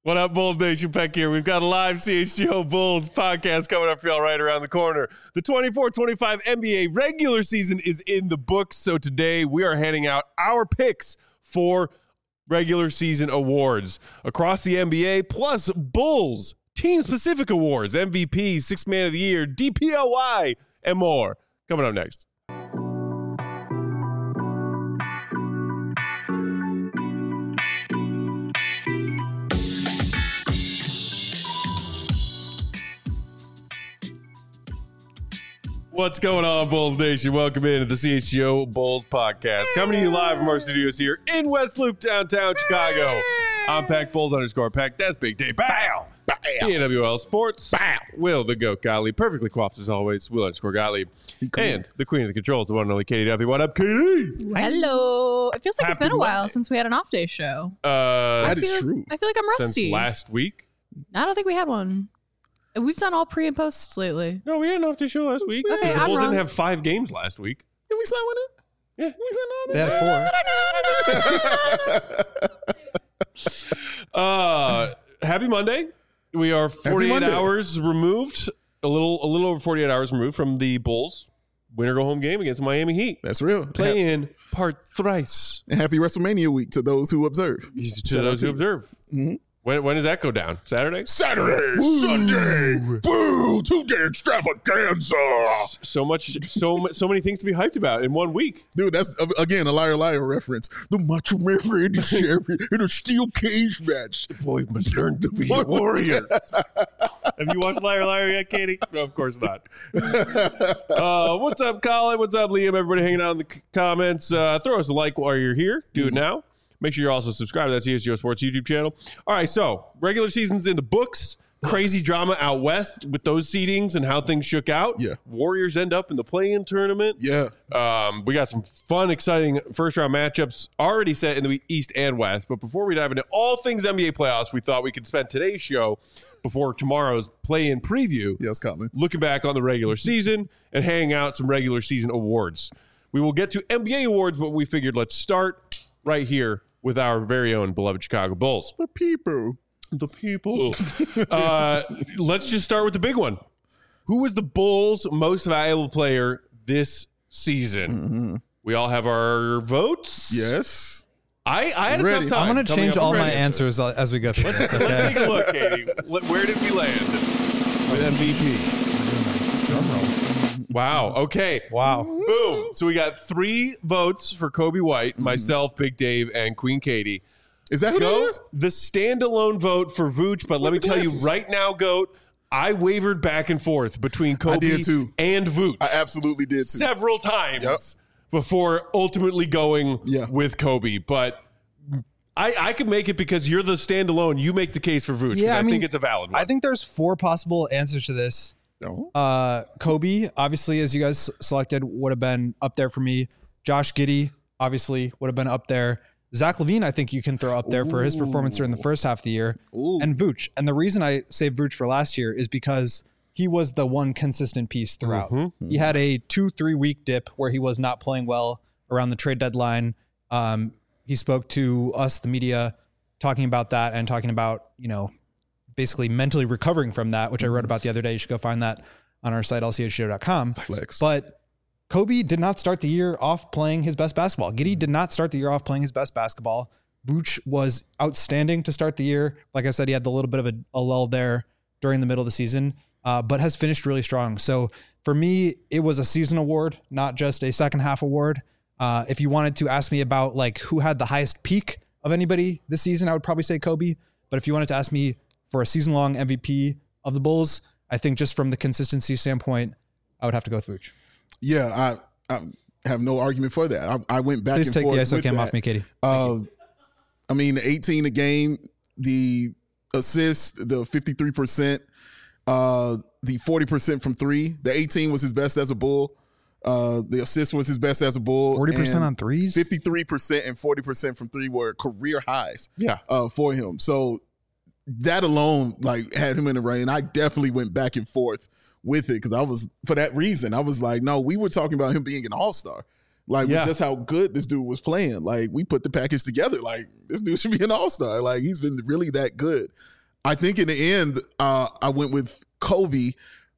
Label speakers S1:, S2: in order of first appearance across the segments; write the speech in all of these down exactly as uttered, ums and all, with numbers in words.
S1: What up, Bulls Nation? Peck here. We've got a live C H G O Bulls podcast coming up for y'all right around the corner. The twenty-four twenty-five N B A regular season is in the books, so today we are handing out our picks for regular season awards across the N B A, plus Bulls team-specific awards, M V P, Sixth Man of the Year, D P O Y, and more. Coming up next. What's going on, Bulls Nation? Welcome into the C H G O Bulls podcast. Coming to you live from our studios here in West Loop, downtown Chicago. I'm Pack Bulls underscore Pack. That's Big Dave. Bow. Bow. P N W L Sports. Bow. Will the Goat Gottlieb. Perfectly coiffed as always. Will underscore Gottlieb. And the queen of the controls, the one and only Katie Duffy. What up, Katie?
S2: Hello. It feels like
S1: Happy
S2: it's been a while
S1: Monday.
S2: since we had an off day show.
S1: Uh,
S3: That is
S2: feel,
S3: true.
S2: I feel like I'm rusty.
S1: since last week?
S2: I don't think we had one. We've done all pre and posts lately.
S1: No, we had an off day show last week.
S2: Okay,
S1: the
S2: I'm
S1: Bulls
S2: wrong.
S1: didn't have five games last week.
S3: Did we sign one in?
S1: Yeah.
S3: We signed
S4: They had four.
S1: Uh, happy Monday. We are forty-eight
S3: Monday.
S1: hours removed, a little a little over forty-eight hours removed from the Bulls winner go home game against Miami Heat.
S3: That's real.
S1: Play in part thrice
S3: And happy WrestleMania week to those who observe.
S1: to those who observe.
S3: Mhm.
S1: When, when does that go down? Saturday?
S3: Saturday, Sunday, boo, two-day extravaganza.
S1: So much, so mu- so many things to be hyped about in one week.
S3: Dude, that's, uh, again, a Liar Liar reference. The Macho Man Randy Savage in a steel cage match.
S1: Boy must learn to be a warrior. Have you watched Liar Liar yet, Katie? No, of course not. Uh, what's up, Colin? What's up, Liam? Everybody hanging out in the c- comments. Uh, throw us a like while you're here. Do it now. Make sure you're also subscribed to that C H G O Sports YouTube channel. All right, so regular season's in the books. Crazy drama out west with those seedings and how things shook out.
S3: Yeah.
S1: Warriors end up in the play-in tournament.
S3: Yeah.
S1: Um, we got some fun, exciting first-round matchups already set in the East and West. But before we dive into all things N B A playoffs, we thought we could spend today's show before tomorrow's play-in preview
S3: Yes, Colin.
S1: looking back on the regular season and handing out some regular season awards. We will get to N B A awards, but we figured let's start right here with our very own beloved Chicago Bulls.
S3: The people.
S1: The people. uh, let's just start with the big one. Who was the Bulls' most valuable player this season?
S3: Mm-hmm.
S1: We all have our votes.
S3: Yes.
S1: I, I had a
S3: Ready.
S1: tough time.
S4: I'm going to
S1: coming
S4: change
S1: up
S4: all
S1: with
S4: my
S1: an answer.
S4: answers as we go through.
S1: Let's,
S4: this,
S1: let's
S4: okay?
S1: take a look, Katie. Let- Where did we land with M V P?
S4: Drum roll.
S1: Wow. Okay.
S4: Wow.
S1: Boom. So we got three votes for Kobe White,
S3: Mm-hmm.
S1: myself, Big Dave, and Queen Katie.
S3: Is that who that
S1: Go
S3: is?
S1: the standalone vote for Vooch, but let me
S3: the
S1: tell you
S3: glasses?
S1: right now, Goat, I wavered back and forth between Kobe
S3: did too.
S1: and Vooch
S3: I absolutely did too.
S1: several times
S3: Yep.
S1: before ultimately going
S3: Yeah.
S1: with Kobe. But I, I could make it because you're the standalone. You make the case for Vooch. 'cause
S4: Yeah,
S1: I,
S4: I mean,
S1: think it's a valid one.
S4: I think there's four possible answers to this.
S3: No.
S4: Uh, Kobe, obviously, as you guys selected, would have been up there for me. Josh Giddey, obviously, would have been up there. Zach LaVine, I think you can throw up there for his performance during the first half of the year.
S3: Ooh.
S4: And Vooch. And the reason I say Vooch for last year is because he was the one consistent piece throughout.
S1: Mm-hmm.
S4: He had a two, three week dip where he was not playing well around the trade deadline. Um, he spoke to us, the media, talking about that and talking about, you know, basically mentally recovering from that, which I wrote about the other day. You should go find that on our site, L C H G O dot com.
S3: Flex.
S4: But Kobe did not start the year off playing his best basketball. Giddey did not start the year off playing his best basketball. Vooch was outstanding to start the year. Like I said, he had a little bit of a, a lull there during the middle of the season, uh, but has finished really strong. So for me, it was a season award, not just a second half award. Uh, if you wanted to ask me about like who had the highest peak of anybody this season, I would probably say Kobe. But if you wanted to ask me for a season long M V P of the Bulls, I think just from the consistency standpoint, I would have to go with Vooch.
S3: Yeah, I, I have no argument for that. I, I went back
S4: Please
S3: and
S4: take
S3: forth
S4: the I S O
S3: with
S4: cam
S3: that.
S4: off me, Katie.
S3: Uh, I mean, the eighteen a game, the assists, the fifty-three percent, uh, the forty percent from three. The eighteen was his best as a Bull. Uh, the assist was his best as a Bull.
S4: forty percent
S3: and
S4: on threes?
S3: fifty-three percent and forty percent from three were career highs
S1: yeah.
S3: uh, for him. So that alone like had him in the running. I definitely went back and forth with it because I was, for that reason, I was like, no, we were talking about him being an all-star. Like,
S1: Yeah.
S3: with just how good this dude was playing. Like, we put the package together. Like, this dude should be an all-star. Like, he's been really that good. I think in the end, uh, I went with Kobe.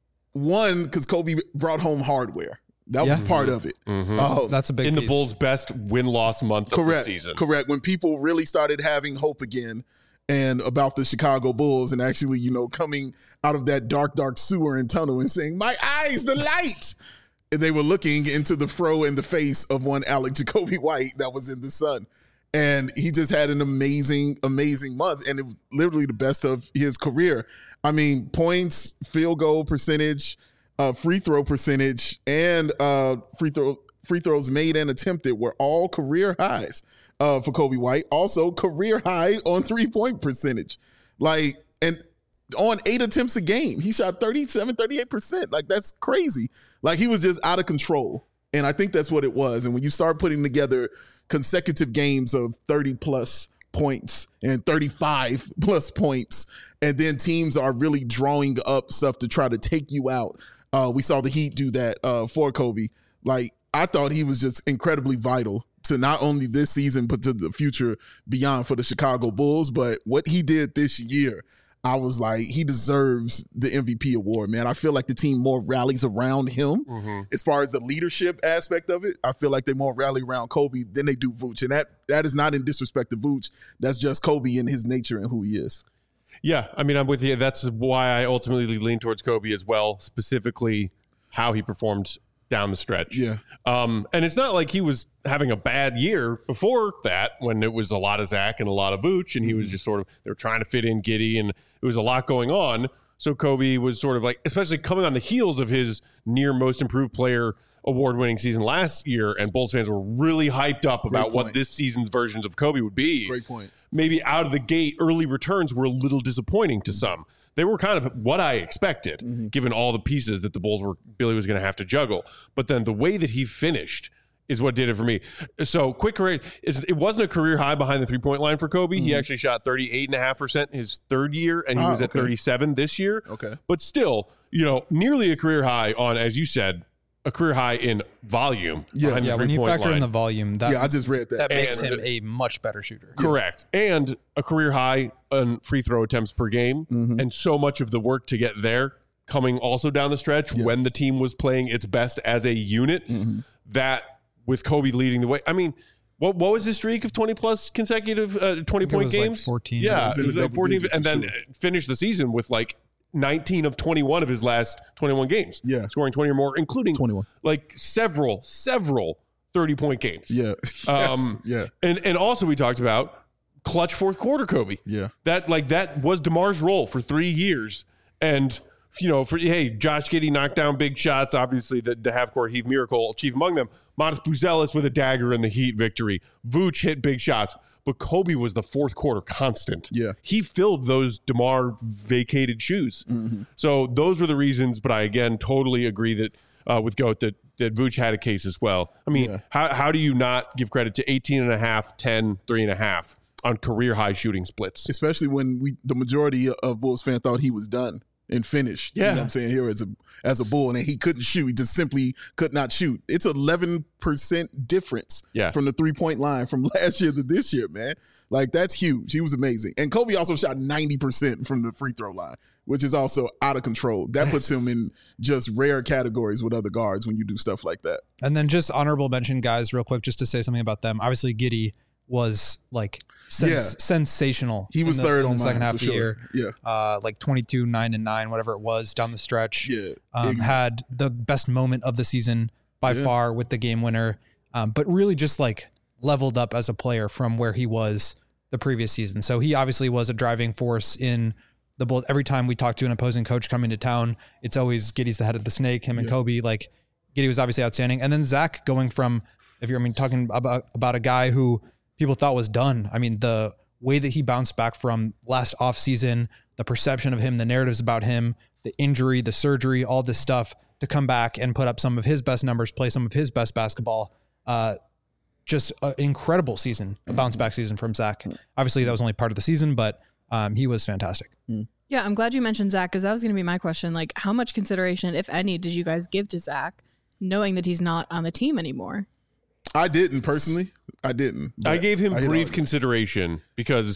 S3: One, because Kobe brought home hardware. That
S4: Yeah.
S3: was part of it.
S1: Mm-hmm.
S3: Uh,
S4: That's a big
S1: in the
S4: piece.
S1: Bulls' best win-loss month
S3: correct,
S1: of the season.
S3: correct. When people really started having hope again and about the Chicago Bulls and actually, you know, coming out of that dark, dark sewer and tunnel and saying, my eyes, the light. And they were looking into the fro and the face of one Alec Jacoby White that was in the sun. And he just had an amazing, amazing month. And it was literally the best of his career. I mean, points, field goal percentage, uh, free throw percentage, and uh, free throw free throws made and attempted were all career highs uh, for Kobe White. Also, career high on three-point percentage. Like, and on eight attempts a game, he shot thirty-seven, thirty-eight percent. Like, that's crazy. Like, he was just out of control. And I think that's what it was. And when you start putting together consecutive games of thirty plus points and thirty-five plus points, and then teams are really drawing up stuff to try to take you out. Uh, we saw the Heat do that uh, for Kobe. Like, I thought he was just incredibly vital to not only this season, but to the future beyond for the Chicago Bulls. But what he did this year, I was like, he deserves the M V P award, man. I feel like the team more rallies around him. Mm-hmm. As far as the leadership aspect of it, I feel like they more rally around Kobe than they do Vooch. And that that is not in disrespect to Vooch. That's just Kobe and his nature and who he is.
S1: Yeah, I mean, I'm with you. That's why I ultimately lean towards Kobe as well, specifically how he performed down the stretch.
S3: Yeah.
S1: Um, and it's not like he was having a bad year before that when it was a lot of Zach and a lot of Vooch, and he was just sort of, they were trying to fit in Giddey, and it was a lot going on. So Kobe was sort of like, especially coming on the heels of his near most improved player award-winning season last year, and Bulls fans were really hyped up about what this season's versions of Kobe would be.
S3: Great point.
S1: Maybe out of the gate, early returns were a little disappointing to some. They were kind of what I expected, mm-hmm. given all the pieces that the Bulls were Billy was going to have to juggle. But then the way that he finished is what did it for me. So quick career, it wasn't a career high behind the three-point line for Kobe. Mm-hmm. He actually shot thirty-eight point five percent his third year, and he oh, was at okay. thirty-seven this year.
S3: Okay.
S1: But still, you know, nearly a career high on, as you said, a career high in volume.
S3: Yeah,
S4: yeah. When you factor
S1: line.
S4: in the volume, that,
S3: yeah, I just read that.
S4: That makes
S1: and,
S4: him a much better shooter.
S1: Correct. Yeah. And a career high on free throw attempts per game. Mm-hmm. And so much of the work to get there coming also down the stretch yeah. when the team was playing its best as a unit, mm-hmm. that with Kobe leading the way. I mean, what what was his streak of twenty plus consecutive uh, twenty point games?
S4: Like fourteen.
S1: Yeah, it was like fourteen, and then sure. finished the season with like nineteen of twenty-one of his last twenty-one games.
S3: Yeah.
S1: Scoring twenty or more, including
S3: twenty-one.
S1: Like several, several thirty-point games.
S3: Yeah.
S1: Um,
S3: yes. Yeah.
S1: And and also we talked about clutch fourth quarter Kobe.
S3: Yeah.
S1: That like that was DeMar's role for three years. And you know, for hey, Josh Giddey knocked down big shots. Obviously, the, the half-court heave miracle, chief among them. Modest Buzelis with a dagger in the Heat victory. Vooch hit big shots. But Kobe was the fourth quarter constant.
S3: Yeah.
S1: He filled those DeMar vacated shoes. Mm-hmm. So those were the reasons, but I, again, totally agree that uh, with Goat that, that Vooch had a case as well. I mean, yeah. how, how do you not give credit to eighteen and a half, ten, three and a half on career-high shooting splits?
S3: Especially when we the majority of Bulls fans thought he was done and finished.
S1: Yeah.
S3: You know what I'm saying? Here as a as a Bull, and he couldn't shoot. He just simply could not shoot. It's eleven percent difference
S1: yeah.
S3: from the three-point line from last year to this year, man. Like, that's huge. He was amazing. And Kobe also shot ninety percent from the free throw line, which is also out of control. That puts him in just rare categories with other guards when you do stuff like that.
S4: And then just honorable mention, guys, real quick, just to say something about them. Obviously, Giddey was like sens-
S3: Yeah.
S4: sensational.
S3: He was
S4: in the,
S3: third
S4: in
S3: on
S4: the second
S3: mine,
S4: half
S3: for
S4: of the
S3: sure.
S4: year.
S3: Yeah.
S4: Uh, like twenty-two, nine and nine, whatever it was down the stretch.
S3: Yeah.
S4: Um,
S3: Yeah.
S4: had the best moment of the season by
S3: Yeah.
S4: far with the game winner. Um, but really just like leveled up as a player from where he was the previous season. So he obviously was a driving force in the Bulls. Every time we talk to an opposing coach coming to town, it's always Giddey's the head of the snake, him and
S3: Yeah.
S4: Kobe. Like, Giddey was obviously outstanding. And then Zach going from, if you're I mean talking about about a guy who people thought was done. I mean, the way that he bounced back from last offseason, the perception of him, the narratives about him, the injury, the surgery, all this stuff, to come back and put up some of his best numbers, play some of his best basketball. Uh, just an incredible season, a bounce back season from Zach. Obviously, that was only part of the season, but um, he was fantastic.
S2: Yeah, I'm glad you mentioned Zach, because that was going to be my question. Like, how much consideration, if any, did you guys give to Zach, knowing that he's not on the team anymore?
S3: I didn't personally. I didn't.
S1: I gave him
S3: I
S1: brief consideration because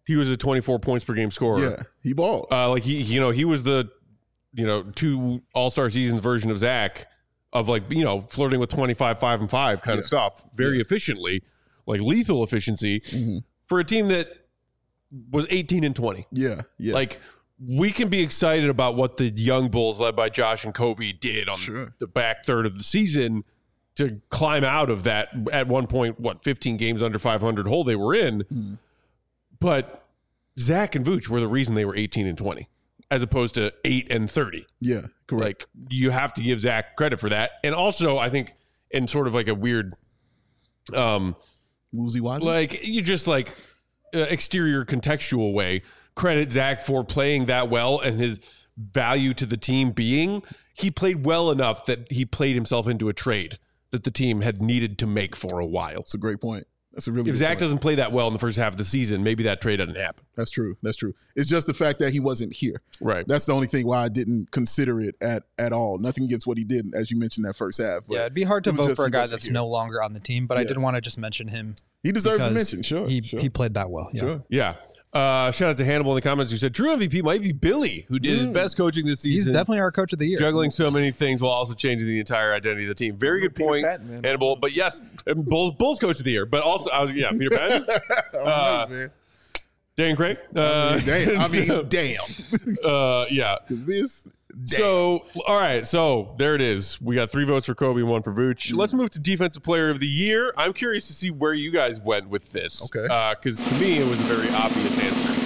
S1: he was a twenty-four points per game scorer.
S3: Yeah, he balled.
S1: Uh, like he, you know, he was the, you know, two All-Star seasons version of Zach of like, you know, flirting with twenty-five, five and five kind
S3: Yeah.
S1: of stuff very
S3: Yeah.
S1: efficiently, like lethal efficiency
S3: Mhm.
S1: for a team that was eighteen and twenty.
S3: Yeah, yeah.
S1: Like we can be excited about what the young Bulls led by Josh and Kobe did on
S3: Sure.
S1: the back third of the season to climb out of that at one point, what, fifteen games under five hundred hole they were in.
S3: Mhm.
S1: But Zach and Vooch were the reason they were eighteen and twenty as opposed to eight and thirty.
S3: yeah, correct.
S1: Like you have to give Zach credit for that. And also I think in sort of like a weird, um,
S3: Woozy Wazzy.
S1: like you just like uh, exterior contextual way, credit Zach for playing that well and his value to the team being he played well enough that he played himself into a trade that the team had needed to make for a while.
S3: That's a great point. That's a really
S1: If
S3: good
S1: Zach
S3: point.
S1: doesn't play that well in the first half of the season, maybe that trade doesn't happen.
S3: That's true. That's true. It's just the fact that he wasn't here.
S1: Right.
S3: That's the only thing why I didn't consider it at at all. Nothing against what he did, as you mentioned that first half. But
S4: Yeah, it'd be hard to
S3: it was
S4: vote
S3: just
S4: for a
S3: he
S4: guy
S3: wasn't
S4: that's
S3: here.
S4: no longer on the team, but I
S3: Yeah.
S4: did want to just mention him.
S3: He deserves a
S4: because
S3: mention. Sure.
S4: He
S3: sure.
S4: he played that well. Yeah.
S3: Sure.
S1: Yeah. Uh, shout out to Hannibal in the comments who said true M V P might be Billy, who did his
S3: Mm.
S1: best coaching this
S4: He's
S1: season.
S4: definitely our coach of the year.
S1: juggling so many things while also changing the entire identity of the team. Very good
S3: Peter
S1: point,
S3: Patton, man.
S1: Hannibal. But yes, um, Bulls, Bulls coach of the year. But also, I was yeah, Peter Patton,
S3: Oh,
S1: Uh,
S3: man.
S1: Dan Craig. Uh,
S3: Damn. I mean, damn.
S1: uh, yeah.
S3: Because this.
S1: So, all right. So there it is. We got three votes for Kobe and one for Vooch. Let's move to Defensive Player of the Year. I'm curious to see where you guys went with this.
S3: Okay.
S1: Because to me, it was a very obvious answer.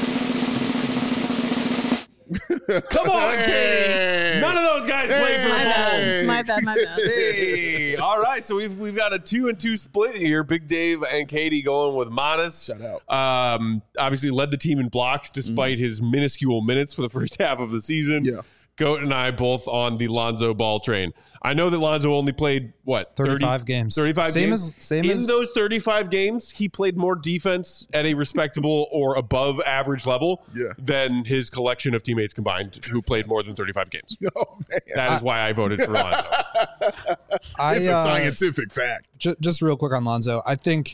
S1: Come on, Katie. None of those guys played for
S2: My
S1: the Bulls.
S2: bad. My bad. My bad.
S1: Hey, all right. So we've we've got a two and two split here. Big Dave and Katie going with Modest.
S3: Shout out.
S1: Um, obviously led the team in blocks despite his minuscule minutes for the first half of the season.
S3: Yeah.
S1: Goat and I both on the Lonzo Ball train. I know that Lonzo only played what
S4: thirty-five
S1: thirty,
S4: games.
S1: thirty-five
S4: Same
S1: games.
S4: as same
S1: in
S4: as
S1: those thirty-five games, he played more defense at a respectable or above average level
S3: Yeah.
S1: than his collection of teammates combined who played more than thirty-five games.
S3: Oh, man.
S1: That is why I voted for Lonzo.
S4: I,
S3: It's a
S4: uh,
S3: scientific fact.
S4: ju- just real quick on Lonzo. I think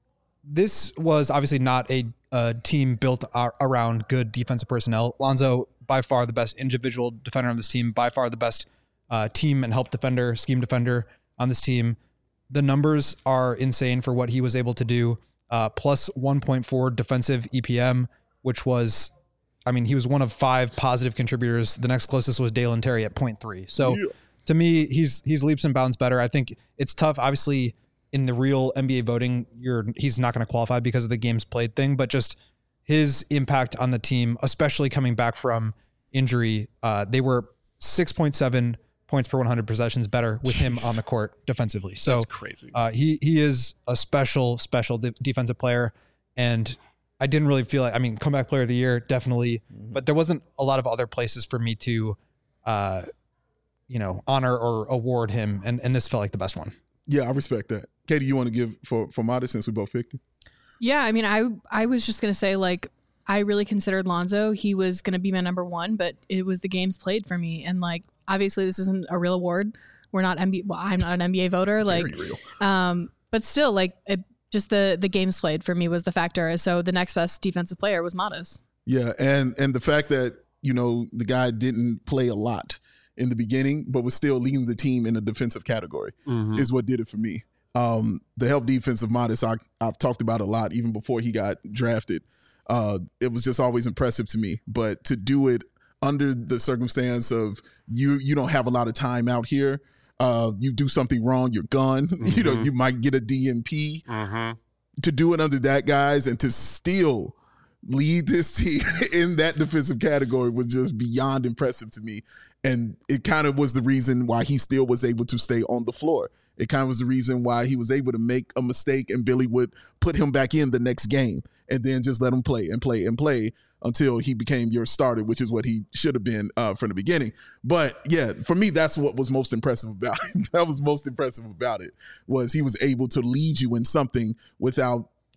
S4: this was obviously not a, a team built ar- around good defensive personnel. Lonzo, by far the best individual defender on this team, by far the best uh, team and help defender, scheme defender on this team. The numbers are insane for what he was able to do. Uh, plus one point four defensive E P M, which was, I mean, he was one of five positive contributors. The next closest was Dalen Terry at zero point three. So
S3: Yeah.
S4: to me, he's he's leaps and bounds better. I think it's tough. Obviously, in the real N B A voting, you're he's not going to qualify because of the games played thing, but just his impact on the team, especially coming back from injury, uh, they were six point seven points per one hundred possessions better with him on the court defensively. So
S1: That's crazy.
S4: uh, he he is a special special de- defensive player, and I didn't really feel like I mean comeback player of the year definitely, but there wasn't a lot of other places for me to, uh, you know, honor or award him, and and this felt like the best one.
S3: Yeah, I respect that. Katie, you want to give for for Modest since we both picked him?
S2: Yeah, I mean, I I was just gonna say like I really considered Lonzo. He was gonna be my number one, but it was the games played for me, and like obviously this isn't a real award. We're not N B A. Well, I'm not an N B A voter. Like,
S3: Very real.
S2: um, but still, like it, just the the games played for me was the factor. So the next best defensive player was Modest.
S3: Yeah, and and the fact that you know the guy didn't play a lot in the beginning, but was still leading the team in the defensive category
S1: Mhm.
S3: is what did it for me. Um, the help defense of Modest, I, I've talked about a lot even before he got drafted. Uh, it was just always impressive to me. But to do it under the circumstance of you, you don't have a lot of time out here. Uh, you do something wrong, you're gone. You know,
S1: Mhm.
S3: you might get a D N P.
S1: Mhm.
S3: To do it under that guys and to still lead this team in that defensive category was just beyond impressive to me. And it kind of was the reason why he still was able to stay on the floor. It kind of was the reason why he was able to make a mistake and Billy would put him back in the next game and then just let him play and play and play until he became your starter, which is what he should have been uh, from the beginning. But yeah, for me, that's what was most impressive about it. That was most impressive about it was he was able to lead you in something without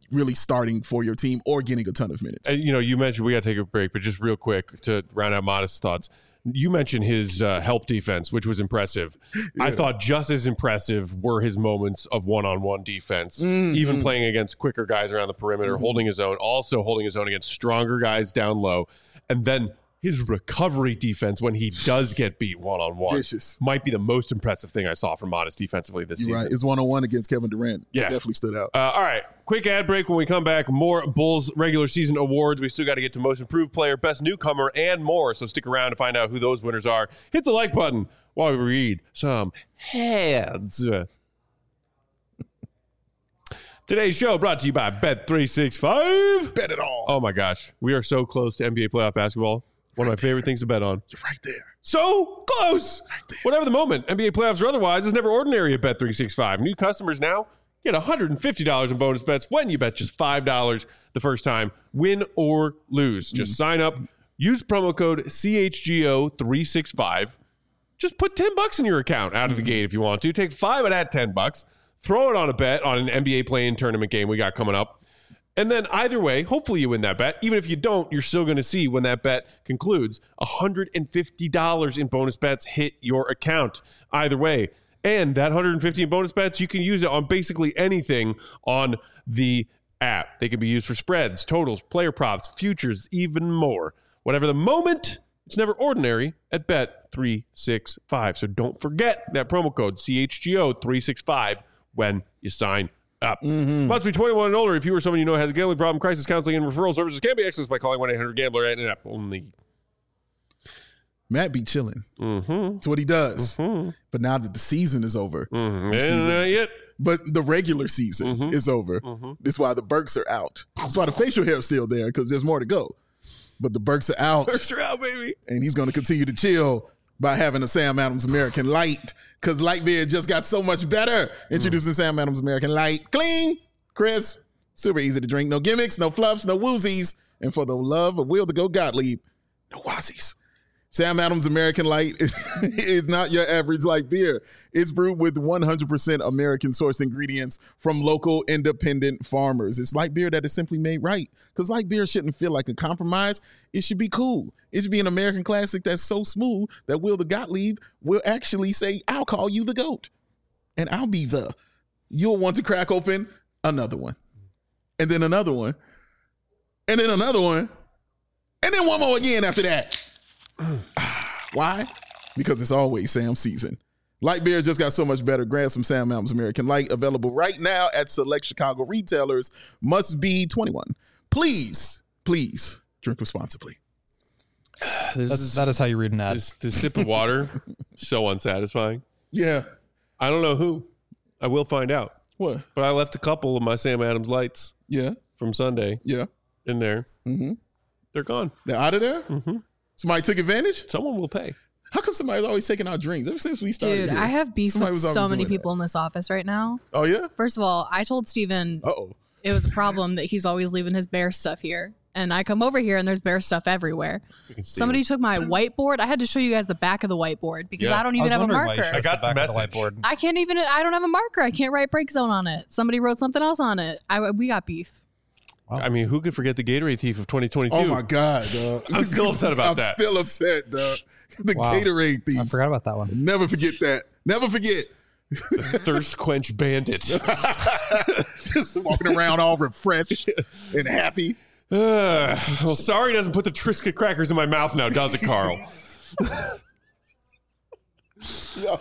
S3: really starting for your team or getting a ton of minutes.
S1: And, you know, you mentioned we got to take a break, but just real quick to round out Modest's thoughts. You mentioned his uh, help defense, which was impressive. Yeah. I thought just as impressive were his moments of one-on-one defense, mm-hmm. even playing against quicker guys around the perimeter, mm-hmm. holding his own, also holding his own against stronger guys down low. And then his recovery defense when he does get beat one-on-one
S3: Vicious.
S1: Might be the most impressive thing I saw from Modest defensively this
S3: You're
S1: season.
S3: Right. It's one-on-one against Kevin Durant.
S1: Yeah.
S3: It definitely stood out.
S1: Uh, all right. Quick ad break. When we come back, more Bulls regular season awards. We still got to get to most improved player, best newcomer, and more. So stick around to find out who those winners are. Hit the like button while we read some heads. Today's show brought to you by Bet three sixty-five.
S3: Bet it all.
S1: Oh, my gosh. We are so close to N B A playoff basketball. One of my favorite things to bet on.
S3: You're right there.
S1: So close. Right there. Whatever the moment, N B A playoffs or otherwise, is never ordinary at Bet three sixty-five. New customers now get one hundred fifty dollars in bonus bets when you bet just five dollars the first time, win or lose. Just mm. sign up, use promo code C H G O three sixty-five. Just put ten bucks in your account out of the gate if you want to. Take five of that ten bucks, throw it on a bet on an N B A play-in tournament game we got coming up. And then either way, hopefully you win that bet. Even if you don't, you're still going to see when that bet concludes, one hundred fifty dollars in bonus bets hit your account. Either way. And that one hundred fifty dollars in bonus bets, you can use it on basically anything on the app. They can be used for spreads, totals, player props, futures, even more. Whatever the moment, it's never ordinary at Bet three sixty-five. So don't forget that promo code C H G O three sixty-five when you sign up. Mm-hmm. Must be twenty-one and older. If you or someone you know has a gambling problem, crisis counseling and referral services can be accessed by calling one eight hundred gambler at an app only.
S3: Matt be chilling.
S1: Mm-hmm.
S3: That's what he does.
S1: Mm-hmm.
S3: But now that the season is over.
S1: Mm-hmm. And not yet.
S3: But the regular season mm-hmm. is over. Mm-hmm. That's why the Burks are out. That's why the facial hair is still there, because there's more to go. But the Burks are out.
S1: Burks are out, baby.
S3: And he's going to continue to chill by having a Sam Adams American Light, because Light Beer just got so much better. Introducing mm. Sam Adams American Light. Clean, crisp, super easy to drink. No gimmicks, no fluffs, no woozies. And for the love of Will to Go Gottlieb, no wazzies. Sam Adams American Light is, is not your average light beer. It's brewed with one hundred percent American sourced ingredients from local independent farmers. It's light beer that is simply made right, because light beer shouldn't feel like a compromise. It should be cool. It should be an American classic that's so smooth that Will the Gottlieb will actually say, I'll call you the GOAT. And I'll be the. You'll want to crack open another one. And then another one. And then another one. And then one more again after that. Why? Because it's always Sam season. Light beer just got so much better. Grab some Sam Adams American Light, available right now at select Chicago retailers. Must be twenty-one. Please, please drink responsibly.
S4: This That's, is, that is how you read an ad.
S1: This, this sip of water, so unsatisfying.
S3: Yeah.
S1: I don't know who. I will find out.
S3: What?
S1: But I left a couple of my Sam Adams Lights.
S3: Yeah.
S1: From Sunday.
S3: Yeah.
S1: In there.
S3: Mm-hmm.
S1: They're gone.
S3: They're out of there?
S1: Mm-hmm.
S3: Somebody took advantage?
S1: Someone will pay.
S3: How come somebody's always taking our drinks ever since we started?
S2: Dude,
S3: here?
S2: I have beef
S3: Somebody
S2: with so many people
S3: that.
S2: in this office right now.
S3: Oh, yeah?
S2: First of all, I told Steven
S3: Uh-oh.
S2: it was a problem that he's always leaving his bear stuff here. And I come over here and there's bear stuff everywhere. Somebody took my whiteboard. I had to show you guys the back of the whiteboard because
S1: yeah.
S2: I don't even
S4: I
S2: have a marker.
S1: I got the, the message.
S4: The whiteboard.
S2: I can't even, I don't have a marker. I can't write break zone on it. Somebody wrote something else on it. I, we got beef.
S1: Wow. I mean, who could forget the Gatorade thief of twenty twenty-two?
S3: Oh, my God, dog.
S1: I'm still upset about
S3: I'm
S1: that.
S3: I'm still upset, dog. The wow. Gatorade thief.
S4: I forgot about that one.
S3: Never forget that. Never forget.
S1: The thirst quench bandit.
S3: Just walking around all refreshed and happy.
S1: Uh, well, sorry doesn't put the Triscuit crackers in my mouth now, does it, Carl?
S3: No.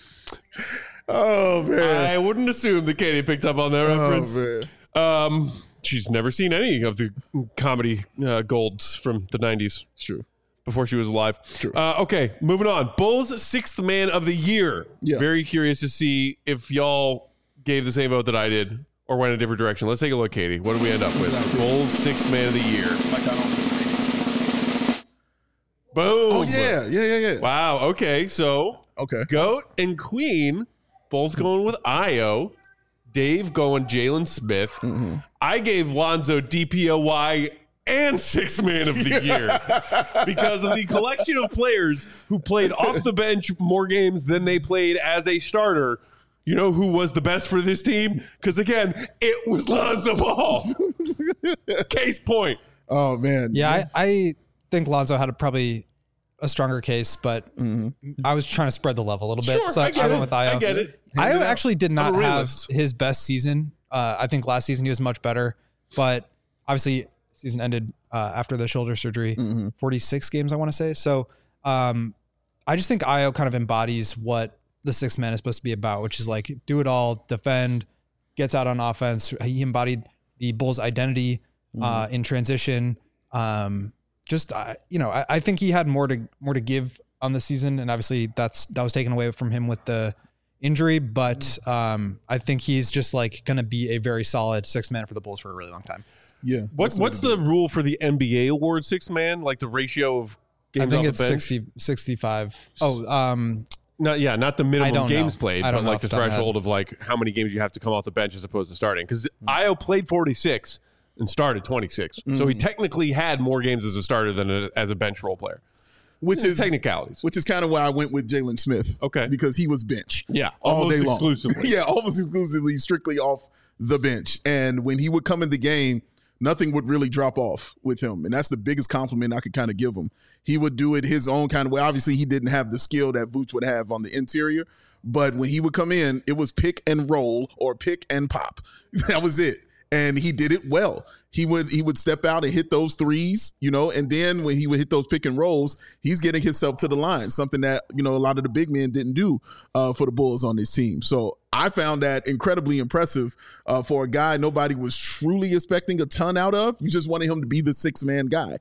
S3: Oh, man.
S1: I wouldn't assume that Katie picked up on that reference.
S3: Oh, man.
S1: Um, she's never seen any of the comedy uh, golds from the nineties.
S3: It's true.
S1: Before she was alive.
S3: True.
S1: Uh, okay, moving on. Bulls sixth man of the year.
S3: Yeah.
S1: Very curious to see if y'all gave the same vote that I did or went a different direction. Let's take a look, Katie. What did we end up with? Bulls sixth man of the year.
S3: Like I don't
S1: Boom.
S3: Oh, yeah. Yeah, yeah, yeah.
S1: Wow. Okay, so
S3: okay.
S1: GOAT and Queen both going with Io. Dave going Jalen Smith. Mm-hmm. I gave Lonzo D P O Y and sixth man of the year because of the collection of players who played off the bench more games than they played as a starter. You know who was the best for this team? Because, again, it was Lonzo Ball. Case point.
S3: Oh, man.
S4: Yeah, I, I think Lonzo had a, probably a stronger case, but mm-hmm. I was trying to spread the level a little bit.
S1: Sure,
S4: so I,
S1: I, get
S4: I went
S1: it.
S4: with Ayo.
S1: I get it.
S4: Ayo actually did not have
S1: realist.
S4: his best season. Uh, I think last season he was much better, but obviously season ended uh, after the shoulder surgery, mm-hmm. forty-six games, I want to say. So um, I just think Ayo kind of embodies what the sixth man is supposed to be about, which is like do it all, defend, gets out on offense. He embodied the Bulls' identity mm-hmm. uh, in transition. Um, just uh, you know, I, I think he had more to more to give on the season, and obviously that's that was taken away from him with the injury. But um, I think he's just like going to be a very solid sixth man for the Bulls for a really long time.
S3: Yeah.
S1: What, what's the rule for the N B A award sixth man? Like the ratio of games
S4: I think
S1: off
S4: it's
S1: the bench?
S4: sixty, sixty-five. Oh, um,
S1: Not yeah, not the minimum games
S4: know.
S1: played,
S4: I
S1: but
S4: don't know
S1: like
S4: off
S1: the
S4: the top of my
S1: threshold of like how many games you have to come off the bench as opposed to starting. Because mm. Ayo played forty-six and started twenty-six, mm. so he technically had more games as a starter than a, as a bench role player.
S3: Which is
S1: technicalities.
S3: Which is kind of why I went with Jalen Smith.
S1: Okay,
S3: because he was bench.
S1: Yeah,
S3: all
S1: almost
S3: day long.
S1: exclusively.
S3: yeah, almost exclusively, strictly off the bench. And when he would come in the game, nothing would really drop off with him. And that's the biggest compliment I could kind of give him. He would do it his own kind of way. Obviously, he didn't have the skill that Vooch would have on the interior. But when he would come in, it was pick and roll or pick and pop. That was it. And he did it well. He would he would step out and hit those threes, you know, and then when he would hit those pick and rolls, he's getting himself to the line, something that, you know, a lot of the big men didn't do uh, for the Bulls on this team. So I found that incredibly impressive uh, for a guy nobody was truly expecting a ton out of. You just wanted him to be the six-man guy.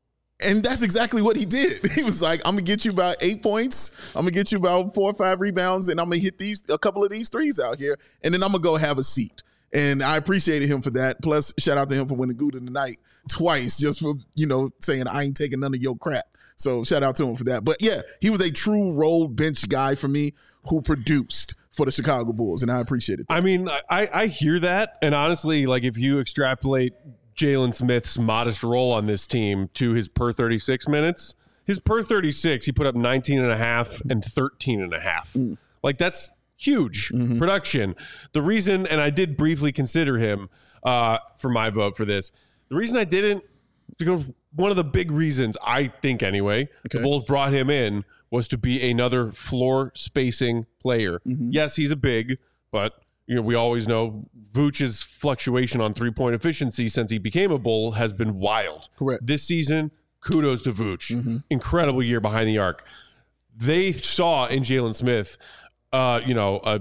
S3: And that's exactly what he did. He was like, I'm going to get you about eight points. I'm going to get you about four or five rebounds, and I'm going to hit these a couple of these threes out here, and then I'm going to go have a seat. And I appreciated him for that. Plus, shout out to him for winning Good in the Night twice, just for, you know, saying I ain't taking none of your crap. So shout out to him for that. But yeah, he was a true role bench guy for me who produced for the Chicago Bulls, and I appreciated that.
S1: I mean, I, I hear that. And honestly, like if you extrapolate Jalen Smith's modest role on this team to his per thirty-six minutes, his per thirty-six, he put up nineteen and a half and thirteen and a half. Mm. Like that's huge mm-hmm. production. The reason, and I did briefly consider him uh, for my vote for this. The reason I didn't, because one of the big reasons, I think anyway, okay. the Bulls brought him in was to be another floor spacing player. Mm-hmm. Yes, he's a big, but you know we always know Vooch's fluctuation on three-point efficiency since he became a Bull has been wild.
S3: Correct.
S1: This season, kudos to Vooch.
S3: Mm-hmm.
S1: Incredible year behind the arc. They saw in Jalen Smith Uh, you know, a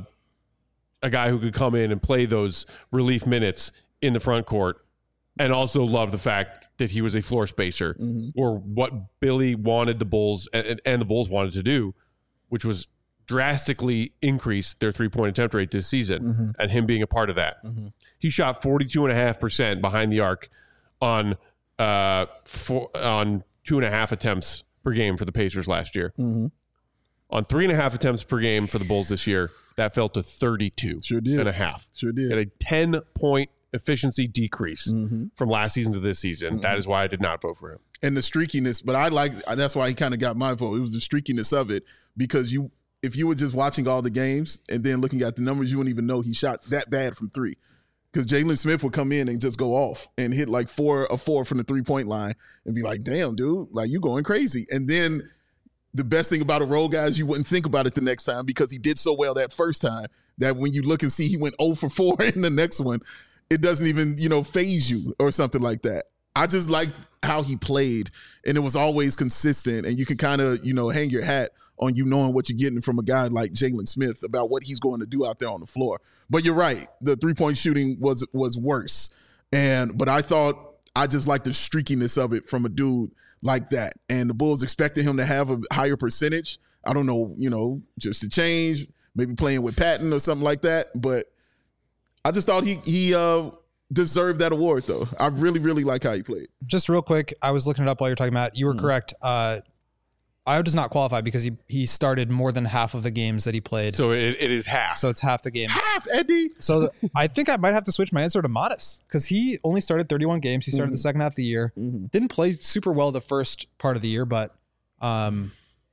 S1: a guy who could come in and play those relief minutes in the front court, and also love the fact that he was a floor spacer, mm-hmm. or what Billy wanted the Bulls and, and the Bulls wanted to do, which was drastically increase their three-point attempt rate this season, mm-hmm. and him being a part of that. Mm-hmm. He shot forty-two point five percent behind the arc on uh four, on two and a half attempts per game for the Pacers last year.
S3: Mm-hmm.
S1: On three and a half attempts per game for the Bulls this year, that fell to thirty-two
S3: sure did.
S1: and a half.
S3: Sure did.
S1: And a ten-point efficiency decrease
S3: mm-hmm.
S1: from last season to this season. Mm-hmm. That is why I did not vote for him.
S3: And the streakiness, but I like, that's why he kind of got my vote. It was the streakiness of it, because you, if you were just watching all the games and then looking at the numbers, you wouldn't even know he shot that bad from three. Because Jalen Smith would come in and just go off and hit like four a four from the three-point line and be like, damn, dude, like you going crazy. And then the best thing about a role guy is you wouldn't think about it the next time because he did so well that first time that when you look and see he went oh for four in the next one, it doesn't even, you know, phase you or something like that. I just like how he played, and it was always consistent, and you can kind of, you know, hang your hat on you knowing what you're getting from a guy like Jalen Smith about what he's going to do out there on the floor. But you're right. The three-point shooting was was worse. And but I thought I just like the streakiness of it from a dude like that. And the Bulls expected him to have a higher percentage. I don't know, you know, just to change, maybe playing with Patton or something like that. But I just thought he he uh, deserved that award, though. I really, really like how he played.
S4: Just real quick, I was looking it up while you're talking about. You were mm. correct. Uh, Ayo does not qualify because he he started more than half of the games that he played.
S1: So it, it is half.
S4: So it's half the games.
S3: Half, Eddie.
S4: So the, I think I might have to switch my answer to Modest because he only started thirty-one games. He started mm-hmm. the second half of the year. Mm-hmm. Didn't play super well the first part of the year, but um,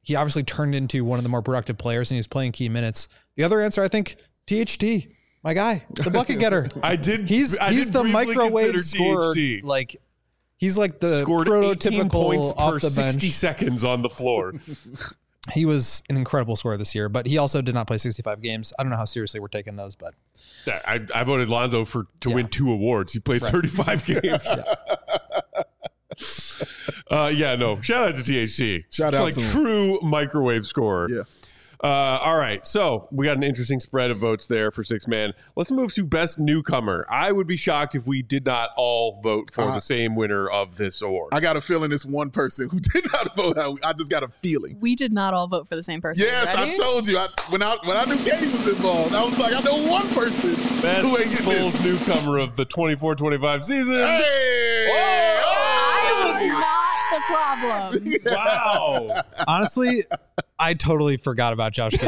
S4: he obviously turned into one of the more productive players, and he's playing key minutes. The other answer, I think, T H T, my guy, the bucket getter.
S1: I did.
S4: He's
S1: I
S4: he's
S1: did
S4: the
S1: briefly
S4: microwave
S1: consider
S4: scorer.
S1: T H T.
S4: Like he's like the
S1: Scored eighteen points
S4: prototypical off
S1: per
S4: the
S1: sixty
S4: bench.
S1: seconds on the floor.
S4: He was an incredible scorer this year, but he also did not play sixty-five games. I don't know how seriously we're taking those, but
S1: Yeah, I, I voted Lonzo for to
S4: Yeah.
S1: win two awards. He played
S4: Right.
S1: thirty-five games. uh, yeah, no. Shout out to T H T.
S3: Shout
S1: It's
S3: out
S1: like
S3: to him.
S1: true microwave scorer.
S3: Yeah.
S1: Uh, all right, so we got an interesting spread of votes there for six man. Let's move to best newcomer. I would be shocked if we did not all vote for
S3: Uh,
S1: the same winner of this award.
S3: I got a feeling it's one person who did not vote out. I just got a feeling.
S2: We did not all vote for the same person.
S3: Yes,
S2: Ready?
S3: I told you. I, when I when I knew Katie was involved, I was like, I know one person
S1: Best
S3: who ain't getting
S1: Bulls
S3: this.
S1: newcomer of the twenty-four twenty-five season.
S3: Hey!
S2: I was not the problem.
S1: Wow.
S4: honestly, I totally forgot about Josh Giddey.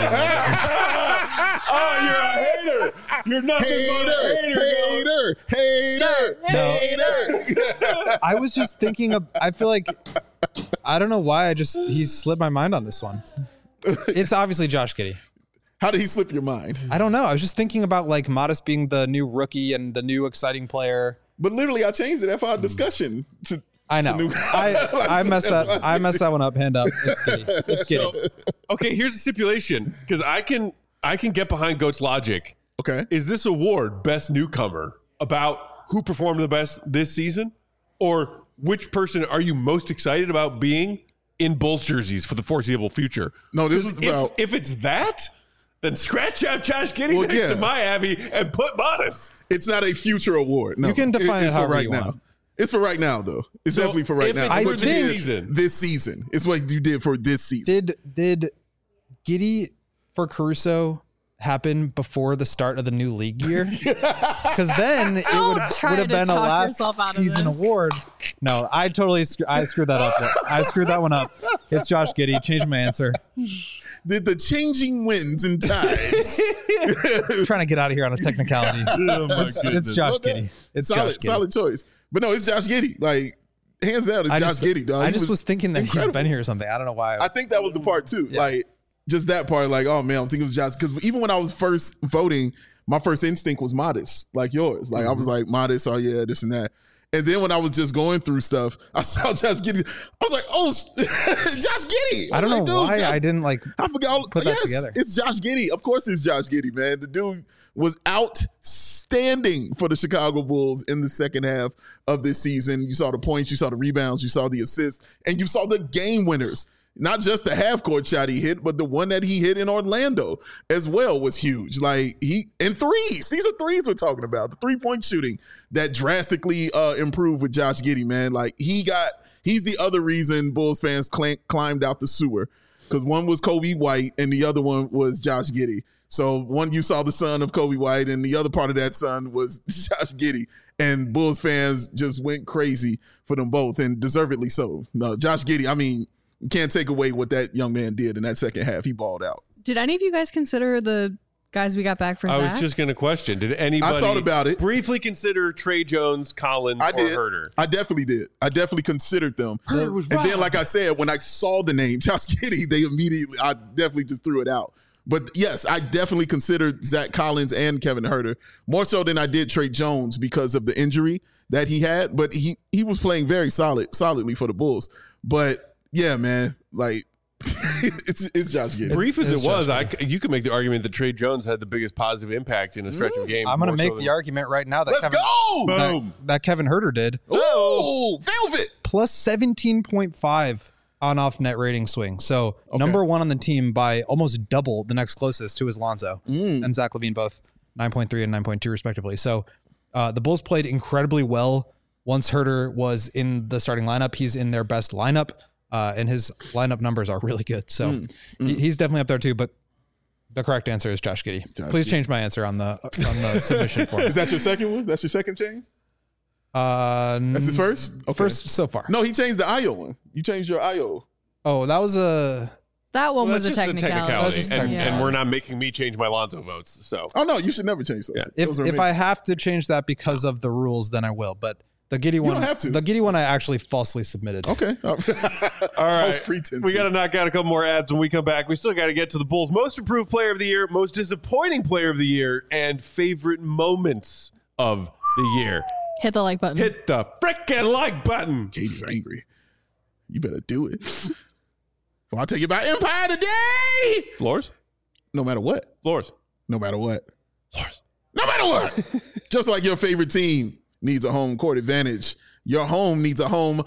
S1: Oh, you're a hater. You're nothing but a hater.
S3: Hater, hater, hater.
S4: I was just thinking of, I feel like, I don't know why I just, he slipped my mind on this one. It's obviously Josh Giddey.
S3: How did he slip your mind?
S4: I don't know. I was just thinking about like Modest being the new rookie and the new exciting player.
S3: But literally, I changed it after our discussion to.
S4: I know.
S3: to new-
S4: I, I messed
S3: That's
S4: that.
S3: why
S4: I messed that one up. Hand up. It's Giddey. It's Giddey.
S1: So, okay, here's a stipulation because I can I can get behind Goat's logic.
S3: Okay.
S1: Is this award best newcomer about who performed the best this season, or which person are you most excited about being in Bulls jerseys for the foreseeable future?
S3: No, this is
S1: If,
S3: about.
S1: if it's that, then scratch out Josh Giddey
S3: Well,
S1: next
S3: yeah.
S1: to my Abby and put Modest.
S3: It's not a future award. No,
S4: You can define it
S3: it's for
S4: however
S3: right
S4: you
S3: now.
S4: want.
S3: It's for right now, though. It's
S1: So,
S3: definitely for right
S1: if
S3: now.
S1: it's
S3: It's
S4: for
S3: what
S4: this
S3: you did
S1: season.
S3: This season. It's what you did for this season.
S4: Did did Giddey for Caruso happen before the start of the new league year? Because then it
S2: Don't
S4: would
S2: try
S4: would have
S2: to
S4: been a
S2: talk
S4: last
S2: yourself out of
S4: season
S2: this.
S4: award. No, I totally sc- I screwed that up. I screwed that one up. It's Josh Giddey. Changed my answer.
S3: Did the changing winds and tides.
S4: I'm trying to get out of here on a technicality.
S1: Oh my
S4: It's, it's Josh Giddey. It's
S3: solid,
S4: Josh Giddey.
S3: solid choice. But no, it's Josh Giddey. Like, hands down, it's
S4: I
S3: Josh
S4: just,
S3: Giddey, dog.
S4: I
S3: He
S4: just was, thinking that
S3: incredible.
S4: he's been here or something. I don't know why. I,
S3: I
S4: was,
S3: think that was the part too.
S4: Yeah.
S3: Like just that part, like, oh man, I'm thinking it was Josh. Because even when I was first voting, my first instinct was Modest, like yours. Like I was like Modest, oh yeah, this and that. And then when I was just going through stuff, I saw Josh Giddey. I was like, oh, Josh Giddey.
S4: I don't
S3: was
S4: know
S3: like, dude,
S4: why
S3: Josh-
S4: I didn't like.
S3: I forgot.
S4: put that
S3: yes,
S4: together.
S3: it's Josh Giddey. Of course, it's Josh Giddey, man. The dude was outstanding for the Chicago Bulls in the second half of this season. You saw the points, you saw the rebounds, you saw the assists, and you saw the game winners. Not just the half court shot he hit, but the one that he hit in Orlando as well was huge. Like he and threes. These are threes we're talking about. The three point shooting that drastically uh, improved with Josh Giddey, man. Like he got. He's the other reason Bulls fans cl- climbed out the sewer because one was Kobe White and the other one was Josh Giddey. So one you saw the son of Kobe White and the other part of that son was Josh Giddey. And Bulls fans just went crazy for them both and deservedly so. No, Josh Giddey, I mean, you can't take away what that young man did in that second half. He balled out.
S2: Did any of you guys consider the guys we got back for
S1: I
S2: Zach?
S1: was just going to question: did anybody
S3: I thought about it.
S1: briefly consider Trey Jones, Collins,
S3: I
S1: or
S3: did.
S1: Herter?
S3: I definitely did. I definitely considered them.
S1: Herter was
S3: And then,
S1: robbed.
S3: like I said, when I saw the name Josh Giddey, they immediately, I definitely just threw it out. But yes, I definitely considered Zach Collins and Kevin Herter more so than I did Trey Jones because of the injury that he had. But he he was playing very solid, solidly for the Bulls. But yeah, man, like it's it's Josh Giddey.
S1: Brief as
S4: It's
S1: it was,
S4: Josh
S1: I, you could make the argument that Trey Jones had the biggest positive impact in a stretch of game.
S4: I'm going to
S1: more so
S4: make
S1: than-
S4: the argument right now that
S3: Let's
S4: Kevin,
S3: go!
S4: that,
S1: Boom.
S4: that Kevin Herter did.
S3: Oh, Velvet.
S4: Plus seventeen point five on off net rating swing. So number one on the team by almost double the next closest, who is Lonzo and Zach LaVine, both nine point three and nine point two respectively. So uh, the Bulls played incredibly well once Herter was in the starting lineup. He's in their best lineup, uh, and his lineup numbers are really good. So
S3: Mm,
S4: he- he's definitely up there too. But the correct answer is Josh Giddey.
S3: Josh
S4: Please
S3: Giddey.
S4: change my answer on the on the submission form.
S3: Is that your second one? That's your second change?
S4: Uh,
S3: That's his first? Okay.
S4: First so far.
S3: No, he changed the I O one. You changed your I O.
S4: Oh, that was a.
S2: that one
S1: Well,
S2: was a
S1: that's just
S2: technicality.
S4: That was just
S1: and,
S4: technicality.
S1: and we're not making me change my Lonzo votes. So
S3: Oh no, you should never change those.
S1: Yeah.
S3: Those
S4: If
S3: are
S4: if
S3: amazing.
S4: I have to change that because of the rules, then I will. But The Giddy one.
S3: don't have to.
S4: The Giddy one I actually falsely submitted.
S3: Okay. All
S1: right.
S3: pretenses.
S1: We got to knock out a couple more ads when we come back. We still got to get to the Bulls' most improved player of the year, most disappointing player of the year, and favorite moments of the year.
S2: Hit the like button.
S1: Hit the frickin' like button.
S3: Katie's angry. You better do it. Well, I'll tell you about Empire today.
S1: Floors?
S3: No matter what.
S1: Floors.
S3: No matter what.
S1: Floors.
S3: No matter what. Just like your favorite team needs a home court advantage, your home needs a home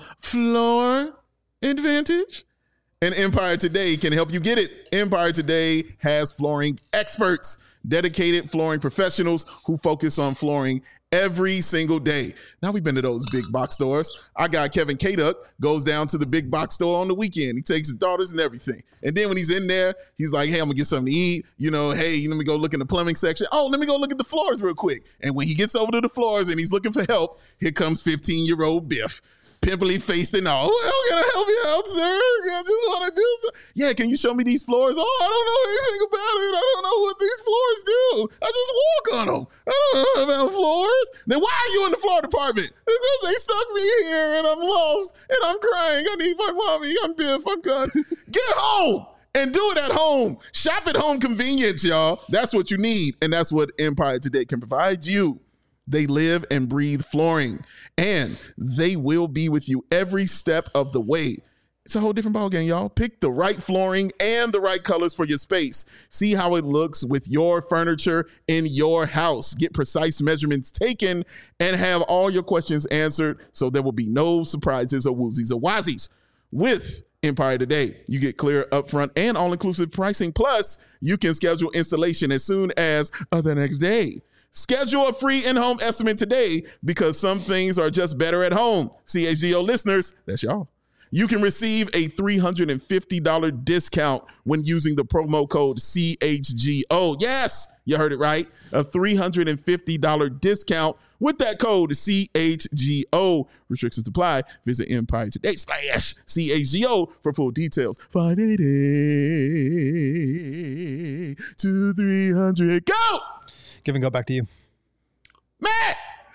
S3: floor advantage. And Empire Today can help you get it. Empire Today has flooring experts, dedicated flooring professionals who focus on flooring every single day. Now we've been to those big box stores. Our guy Kevin Kaduck goes down to the big box store on the weekend. He takes his daughters and everything. And then when he's in there, he's like, hey, I'm gonna get something to eat. You know, hey, let me go look in the plumbing section. Oh, let me go look at the floors real quick. And when he gets over to the floors and he's looking for help, here comes fifteen-year-old Biff. Pimply faced and all. Well, can I help you out, sir? I just want to do something. Yeah, can you show me these floors? Oh, I don't know anything about it. I don't know what these floors do. I just walk on them. I don't know about floors. Then why are you in the floor department? Because they stuck me here and I'm lost and I'm crying. I need my mommy. I'm Biff. I'm gone. Get home and do it at home. Shop at home convenience, y'all. That's what you need. And that's what Empire Today can provide you. They live and breathe flooring, and they will be with you every step of the way. It's a whole different ballgame, y'all. Pick the right flooring and the right colors for your space. See how it looks with your furniture in your house. Get precise measurements taken and have all your questions answered so there will be no surprises or woozies or wazies. With Empire Today, you get clear upfront and all-inclusive pricing. Plus, you can schedule installation as soon as uh, the next day. Schedule a free in-home estimate today because some things are just better at home. C H G O listeners, that's y'all. You can receive a three hundred fifty dollars discount when using the promo code C H G O. Yes, you heard it right. A three hundred fifty dollars discount with that code C H G O. Restrictions apply. Visit Empire Today slash C H G O for full details. five eighty to three hundred. Go!
S4: Give and go back to you.
S3: Matt!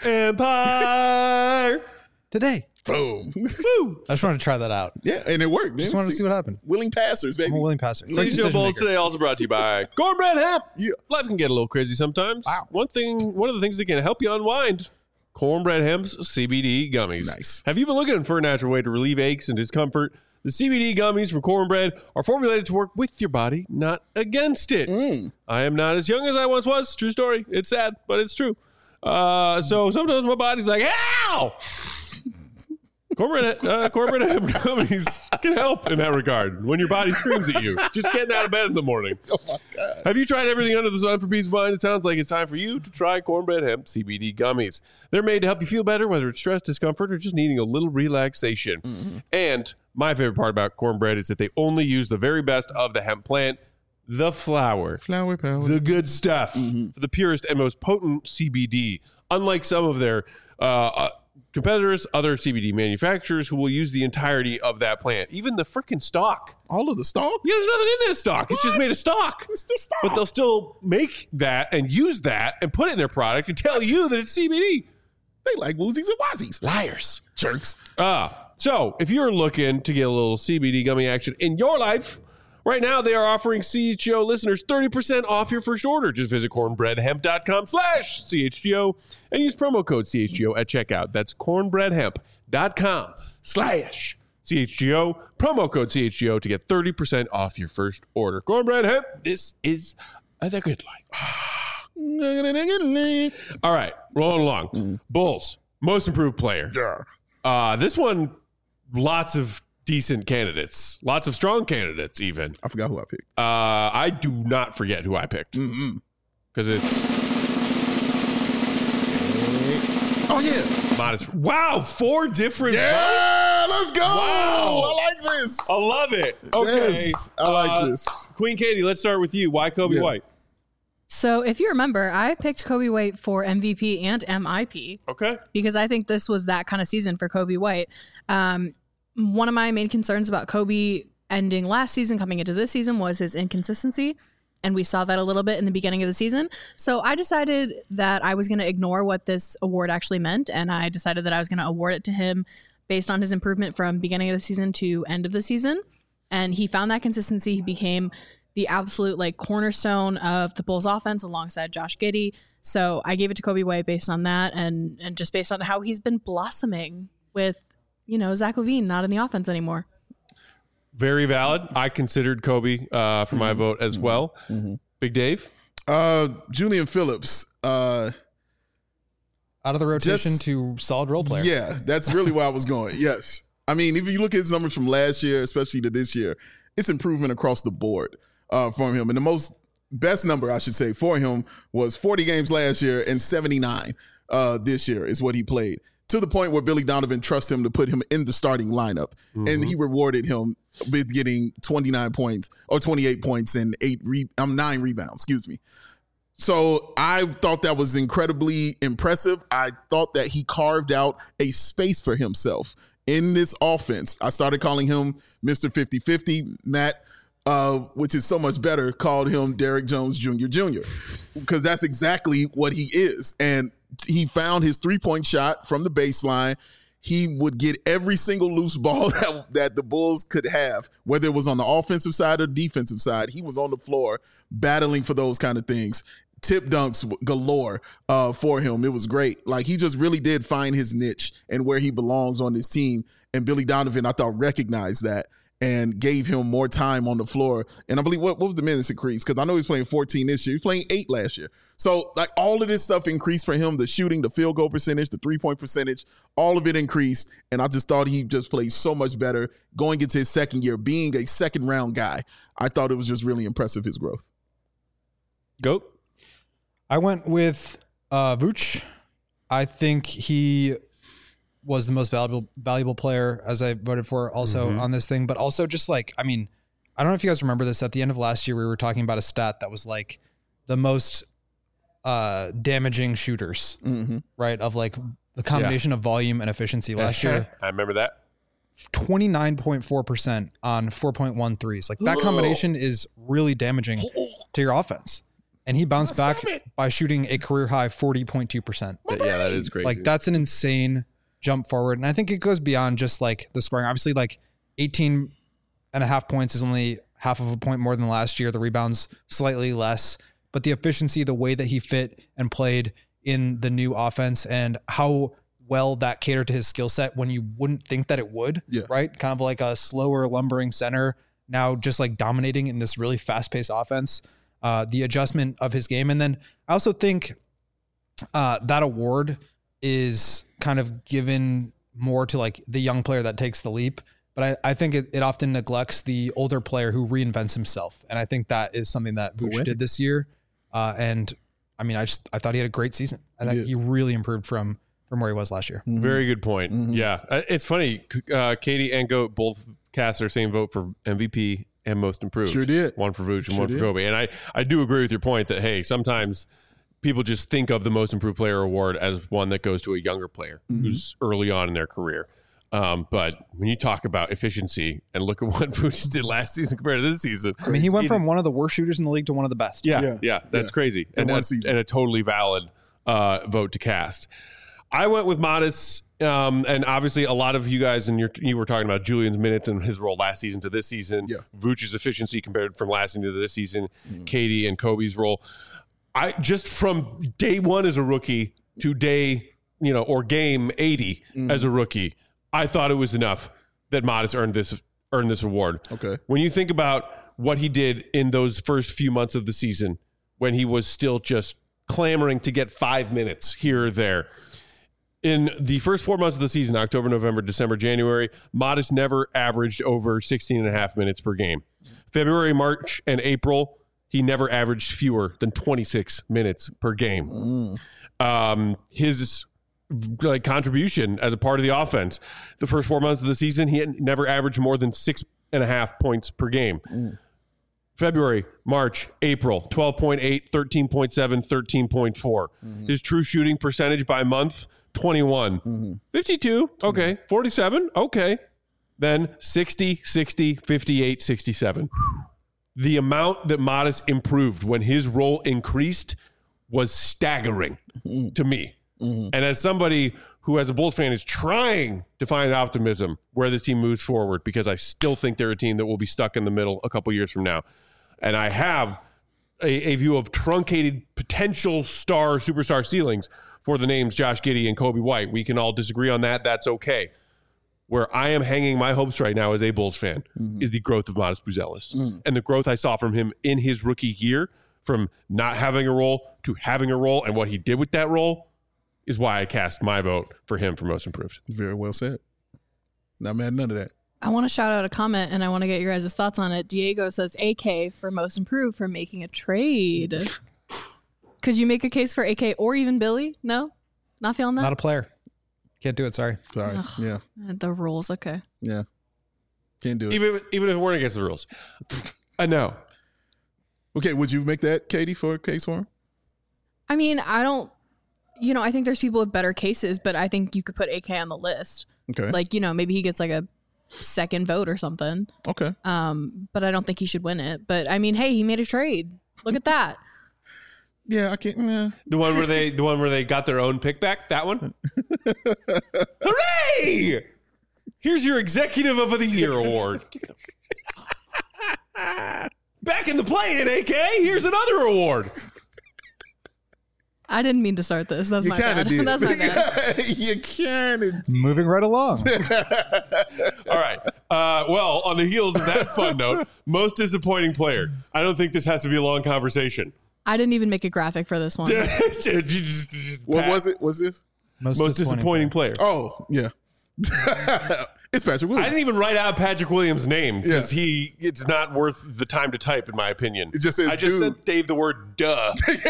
S1: Empire
S4: Today.
S3: Boom.
S4: I just wanted to try that out.
S3: Yeah, and it worked.
S4: Just wanted to see what happened.
S3: Willing passers, baby.
S4: I'm a willing passer.
S1: C H G O Bulls today also brought to you by Cornbread Hemp.
S3: Yeah.
S1: Life can get a little crazy sometimes.
S4: Wow.
S1: One thing, one of the things that can help you unwind, Cornbread Hemp's C B D gummies.
S3: Nice.
S1: Have you been looking for a natural way to relieve aches and discomfort? The C B D gummies from Cornbread are formulated to work with your body, not against it.
S3: Mm.
S1: I am not as young as I once was. True story. It's sad, but it's true. Uh, so sometimes my body's like, ow! Cornbread, uh, cornbread hemp gummies can help in that regard when your body screams at you. Just getting out of bed in the morning.
S3: Oh, my God.
S1: Have you tried everything under the sun for peace of mind? It sounds like it's time for you to try Cornbread Hemp C B D gummies. They're made to help you feel better, whether it's stress, discomfort, or just needing a little relaxation. Mm-hmm. And my favorite part about Cornbread is that they only use the very best of the hemp plant, the flower.
S3: Flower power.
S1: The good stuff.
S3: Mm-hmm.
S1: For the purest and most potent C B D. Unlike some of their uh, uh, competitors, other C B D manufacturers who will use the entirety of that plant. Even the freaking stalk.
S3: All of the stalk?
S1: Yeah, there's nothing in that stalk. It's just
S3: What?
S1: made of stalk.
S3: It's the stalk.
S1: But they'll still make that and use that and put it in their product and tell you that it's C B D.
S3: They like woozies and wazies.
S1: Liars.
S3: Jerks.
S1: Ah, so if you're looking to get a little C B D gummy action in your life, right now they are offering C H G O listeners thirty percent off your first order. Just visit cornbreadhemp.com slash CHGO and use promo code C H G O at checkout. That's cornbreadhemp.com slash CHGO. Promo code C H G O to get thirty percent off your first order. Cornbread Hemp, this is uh, the good life. All right, rolling along. Mm. Bulls, most improved player.
S3: Yeah.
S1: Uh, this one, lots of decent candidates, lots of strong candidates even.
S3: I forgot who I picked.
S1: Uh, I do not forget who I picked because
S3: Mm-hmm.
S1: it's
S3: Oh, yeah.
S1: modest. Wow, four different
S3: Yeah, let's go.
S1: Wow.
S3: I like this.
S1: I love it. Okay.
S3: Yes, I like
S1: Uh,
S3: this.
S1: Queen Katie, let's start with you. Why Kobe
S3: Yeah.
S1: White?
S2: So if you remember, I picked Kobe White for M V P and M I P
S1: Okay.
S2: because I think this was that kind of season for Kobe White. Um, one of my main concerns about Kobe ending last season, coming into this season, was his inconsistency. And we saw that a little bit in the beginning of the season. So I decided that I was going to ignore what this award actually meant. And I decided that I was going to award it to him based on his improvement from beginning of the season to end of the season. And he found that consistency. He became the absolute like cornerstone of the Bulls offense alongside Josh Giddey. So I gave it to Coby White based on that and, and just based on how he's been blossoming with, you know, Zach LaVine not in the offense anymore.
S1: Very valid. I considered Coby uh, for my mm-hmm. vote as well. Mm-hmm. Big Dave?
S3: Uh, Julian Phillips. Uh,
S4: Out of the rotation
S3: just,
S4: to solid role player.
S3: Yeah, that's really where I was going. Yes. I mean, if you look at his numbers from last year, especially to this year, it's improvement across the board uh, from him. And the most best number, I should say, for him was forty games last year and seventy-nine uh, this year is what he played. To the point where Billy Donovan trusted him to put him in the starting lineup. Mm-hmm. And he rewarded him with getting twenty-nine points or twenty-eight points and eight re- um, nine rebounds, excuse me. So I thought that was incredibly impressive. I thought that he carved out a space for himself in this offense. I started calling him Mister fifty-fifty. Matt, uh, which is so much better, called him Derrick Jones Junior Junior because that's exactly what he is. And he found his three-point shot from the baseline. He would get every single loose ball that, that the Bulls could have, whether it was on the offensive side or defensive side. He was on the floor battling for those kind of things. Tip dunks galore uh, for him. It was great. Like, he just really did find his niche and where he belongs on this team. And Billy Donovan, I thought, recognized that and gave him more time on the floor. And I believe, what, what was the minutes increase? Because I know he's playing fourteen this year. He was playing eight last year. So, like, all of this stuff increased for him. The shooting, the field goal percentage, the three-point percentage, all of it increased. And I just thought he just played so much better going into his second year, being a second-round guy. I thought it was just really impressive, his growth.
S1: Go.
S4: I went with uh, Vooch. I think he was the most valuable valuable player, as I voted for also mm-hmm. on this thing. But also just like, I mean, I don't know if you guys remember this. At the end of last year, we were talking about a stat that was like the most uh, damaging shooters, mm-hmm. right? Of like the combination yeah. of volume and efficiency last year.
S1: I remember that.
S4: twenty-nine point four percent on four point one threes. Like that combination is really damaging to your offense. And he bounced back by shooting a career high forty point two percent.
S1: Yeah, that is crazy.
S4: Like that's an insane jump forward. And I think it goes beyond just like the scoring. Obviously, like eighteen and a half points is only half of a point more than last year. The rebounds slightly less, but the efficiency, the way that he fit and played in the new offense and how well that catered to his skill set when you wouldn't think that it would,
S3: yeah.
S4: right? Kind of like a slower lumbering center now just like dominating in this really fast paced offense. Uh, the adjustment of his game. And then I also think uh, that award is kind of given more to like the young player that takes the leap. But I, I think it, it often neglects the older player who reinvents himself. And I think that is something that Vooch did this year. Uh, and I mean, I just, I thought he had a great season. I think yeah. he really improved from, from where he was last year.
S1: Mm-hmm. Very good point. Mm-hmm. Yeah. It's funny. Uh, Katie and Goat both cast their same vote for M V P and most improved.
S3: Sure did.
S1: One for Vooch and
S3: sure
S1: one for
S3: did.
S1: Coby. And I, I do agree with your point that, hey, sometimes people just think of the most improved player award as one that goes to a younger player mm-hmm. who's early on in their career. Um, but when you talk about efficiency and look at what Vooch did last season compared to this season.
S4: I mean, he went from one of the worst shooters in the league to one of the best.
S1: Yeah, yeah, yeah that's yeah. crazy. And, that's, and a totally valid uh, vote to cast. I went with Modest, um, and obviously a lot of you guys, and you were talking about Julian's minutes and his role last season to this season,
S3: yeah.
S1: Vooch's efficiency compared from last season to this season, mm-hmm. Katie and Coby's role. I just from day one as a rookie to day, you know, or game eighty mm-hmm. as a rookie, I thought it was enough that Modest earned this earned this award.
S3: Okay.
S1: When you think about what he did in those first few months of the season, when he was still just clamoring to get five minutes here or there. In the first four months of the season, October, November, December, January, Modest never averaged over sixteen and a half minutes per game. February, March, and April, he never averaged fewer than twenty-six minutes per game. Mm. Um, his like contribution as a part of the offense, the first four months of the season, he had never averaged more than six and a half points per game. Mm. February, March, April, twelve point eight, thirteen point seven, thirteen point four. Mm-hmm. His true shooting percentage by month, twenty-one. Mm-hmm. fifty-two, okay. forty-seven, okay. Then sixty, sixty, fifty-eight, sixty-seven. the amount that Modest improved when his role increased was staggering mm-hmm. to me. Mm-hmm. And as somebody who, as a Bulls fan, is trying to find optimism where this team moves forward, because I still think they're a team that will be stuck in the middle a couple years from now. And I have a, a view of truncated potential star, superstar ceilings for the names Josh Giddey and Coby White. We can all disagree on that. That's okay. Where I am hanging my hopes right now as a Bulls fan mm-hmm. is the growth of Modest Buzelis. Mm. And the growth I saw from him in his rookie year, from not having a role to having a role, and what he did with that role is why I cast my vote for him for most improved.
S3: Very well said. Not mad at none of that.
S2: I want to shout out a comment, and I want to get your guys' thoughts on it. Diego says A K for most improved for making a trade. Could you make a case for A K or even Billy? No? Not feeling that?
S4: Not a player. Can't do it. Sorry.
S3: Sorry. Ugh, yeah.
S2: The rules. Okay.
S3: Yeah. Can't do it.
S1: Even, even if it weren't against the rules. I know.
S3: Okay. Would you make that, Katie, for a case for him?
S2: I mean, I don't, you know, I think there's people with better cases, but I think you could put A K on the list.
S3: Okay.
S2: Like, you know, maybe he gets like a second vote or something.
S3: Okay.
S2: Um, but I don't think he should win it. But I mean, hey, he made a trade. Look at that.
S3: Yeah, I can't. Yeah.
S1: The one where they, the one where they got their own pick back. That one. Hooray! Here's your Executive of the Year award. Back in the play-in, A K. Here's another award.
S2: I didn't mean to start this. That's
S3: you
S2: my bad.
S3: Did.
S2: That's my bad.
S3: You kind of
S4: moving right along.
S1: All right. Uh, well, on the heels of that fun note, most disappointing player. I don't think this has to be a long conversation.
S2: I didn't even make a graphic for this one.
S1: just, just, just
S3: what was it? Was it
S1: most, most disappointing, disappointing player?
S3: player? Oh, yeah. It's Patrick Williams.
S1: I didn't even write out Patrick Williams' name because yeah. he it's not worth the time to type, in my opinion.
S3: It just says
S1: I just
S3: dude.
S1: sent Dave the word duh.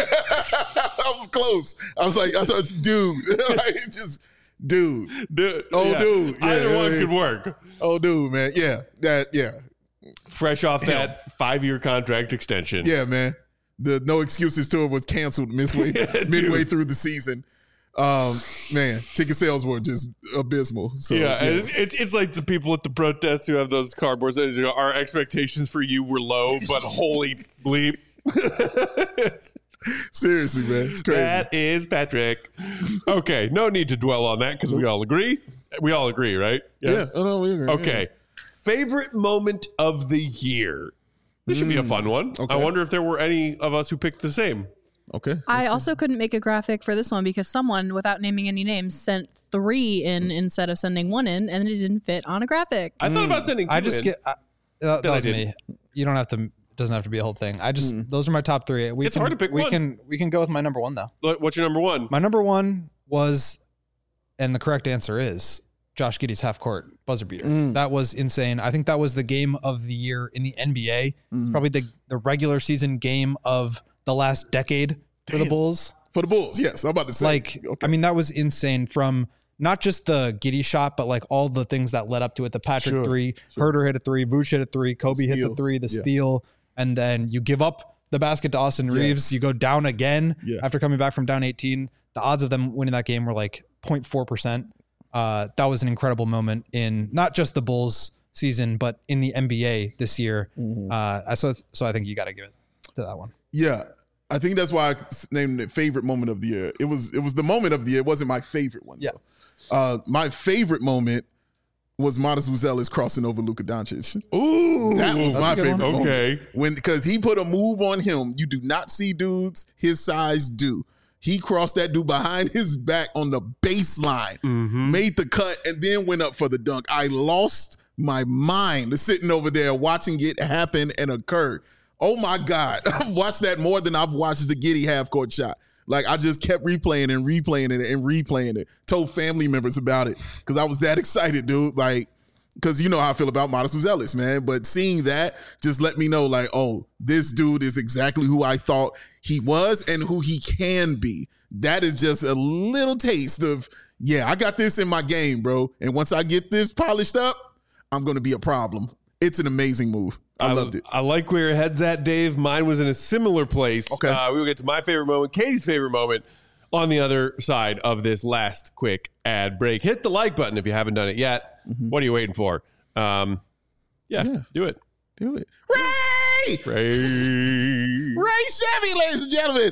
S3: I was close. I was like, I thought it's dude. Like, just dude.
S1: dude.
S3: Oh,
S1: yeah.
S3: dude. Yeah,
S1: Either
S3: yeah,
S1: one
S3: yeah.
S1: could work.
S3: Oh, dude, man. Yeah. That, yeah.
S1: Fresh off
S3: Hell.
S1: that five-year contract extension.
S3: Yeah, man. The No Excuses tour was canceled midway, midway through the season. Um, man, ticket sales were just abysmal. So,
S1: yeah,
S3: yeah.
S1: It's, it's it's like the people at the protests who have those cardboards. That, you know, our expectations for you were low, but holy bleep.
S3: Seriously, man. It's crazy.
S1: That is Patrick. Okay, no need to dwell on that because we all agree. We all agree, right?
S3: Yes? Yeah. Oh, no, we agree.
S1: Okay.
S3: Yeah.
S1: Favorite moment of the year. This should be a fun one.
S3: Okay.
S1: I wonder if there were any of us who picked the same.
S3: Okay.
S2: I also couldn't make a graphic for this one because someone, without naming any names, sent three in instead of sending one in, and it didn't fit on a graphic.
S1: I thought about sending two
S4: I just
S1: in.
S4: get uh, that, that was me. You don't have to. It doesn't have to be a whole thing. I just mm. those are my top three. We
S1: it's
S4: can,
S1: hard to pick
S4: we
S1: one.
S4: can we can go with my number one though.
S1: What's your number one?
S4: My number one was, and the correct answer is Josh Giddey's half court buzzer beater. Mm. That was insane. I think that was the game of the year in the N B A. Mm. Probably the the regular season game of the last decade. For
S3: Damn.
S4: the Bulls?
S3: For the Bulls, yes. I'm about to say.
S4: Like, okay. I mean, that was insane from not just the Giddey shot, but like all the things that led up to it. The Patrick sure, three, sure. Herter hit a three, Vooch hit a three, Coby hit the three, the yeah. steal, and then you give up the basket to Austin Reeves. Yes. You go down again yeah. after coming back from down eighteen. The odds of them winning that game were like zero point four percent. Uh, that was an incredible moment in not just the Bulls season, but in the N B A this year. Mm-hmm. Uh, so, so I think you got to give it to that one.
S3: Yeah. I think that's why I named it favorite moment of the year. It was it was the moment of the year. It wasn't my favorite one.
S4: Yeah.
S3: Uh, my favorite moment was Modest Buzelis crossing over Luka Doncic.
S1: Ooh,
S3: that was my favorite
S1: one.
S3: moment.
S1: Okay.
S3: When because he put a move on him you do not see dudes his size do. He crossed that dude behind his back on the baseline, mm-hmm. made the cut, and then went up for the dunk. I lost my mind sitting over there watching it happen and occur. Oh my God. I've watched that more than I've watched the Giddey half court shot. Like I just kept replaying and replaying it and replaying it. Told family members about it because I was that excited, dude. Like, because you know how I feel about Modest Buzelis, man. But seeing that just let me know, like, oh, this dude is exactly who I thought he was and who he can be. That is just a little taste of, yeah, I got this in my game, bro. And once I get this polished up, I'm going to be a problem. It's an amazing move. I, I loved it.
S1: I like where your head's at, Dave. Mine was in a similar place.
S3: Okay.
S1: Uh, we will get to my favorite moment, Katie's favorite moment on the other side of this last quick ad break. Hit the like button if you haven't done it yet. Mm-hmm. What are you waiting for? Um, yeah,
S3: yeah,
S1: do it.
S3: Do it. Ray Chevy.
S1: Ray.
S3: Ray Chevy, ladies and gentlemen.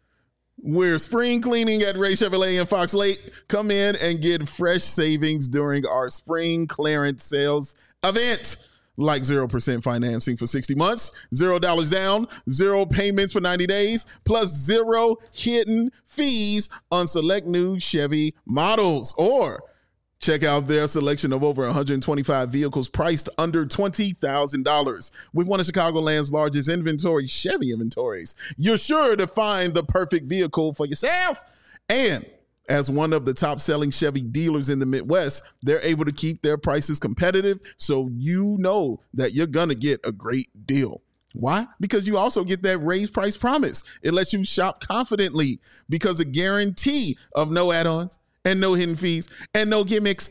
S3: We're spring cleaning at Ray Chevrolet in Fox Lake. Come in and get fresh savings during our spring clearance sales event. Like zero percent financing for sixty months, zero dollars down, zero payments for ninety days, plus zero hidden fees on select new Chevy models. Or check out their selection of over one hundred twenty-five vehicles priced under twenty thousand dollars. With one of Chicagoland's largest inventory, Chevy inventories, you're sure to find the perfect vehicle for yourself. And as one of the top-selling Chevy dealers in the Midwest, they're able to keep their prices competitive, so you know that you're going to get a great deal. Why? Because you also get that raised price promise. It lets you shop confidently because a guarantee of no add-ons and no hidden fees and no gimmicks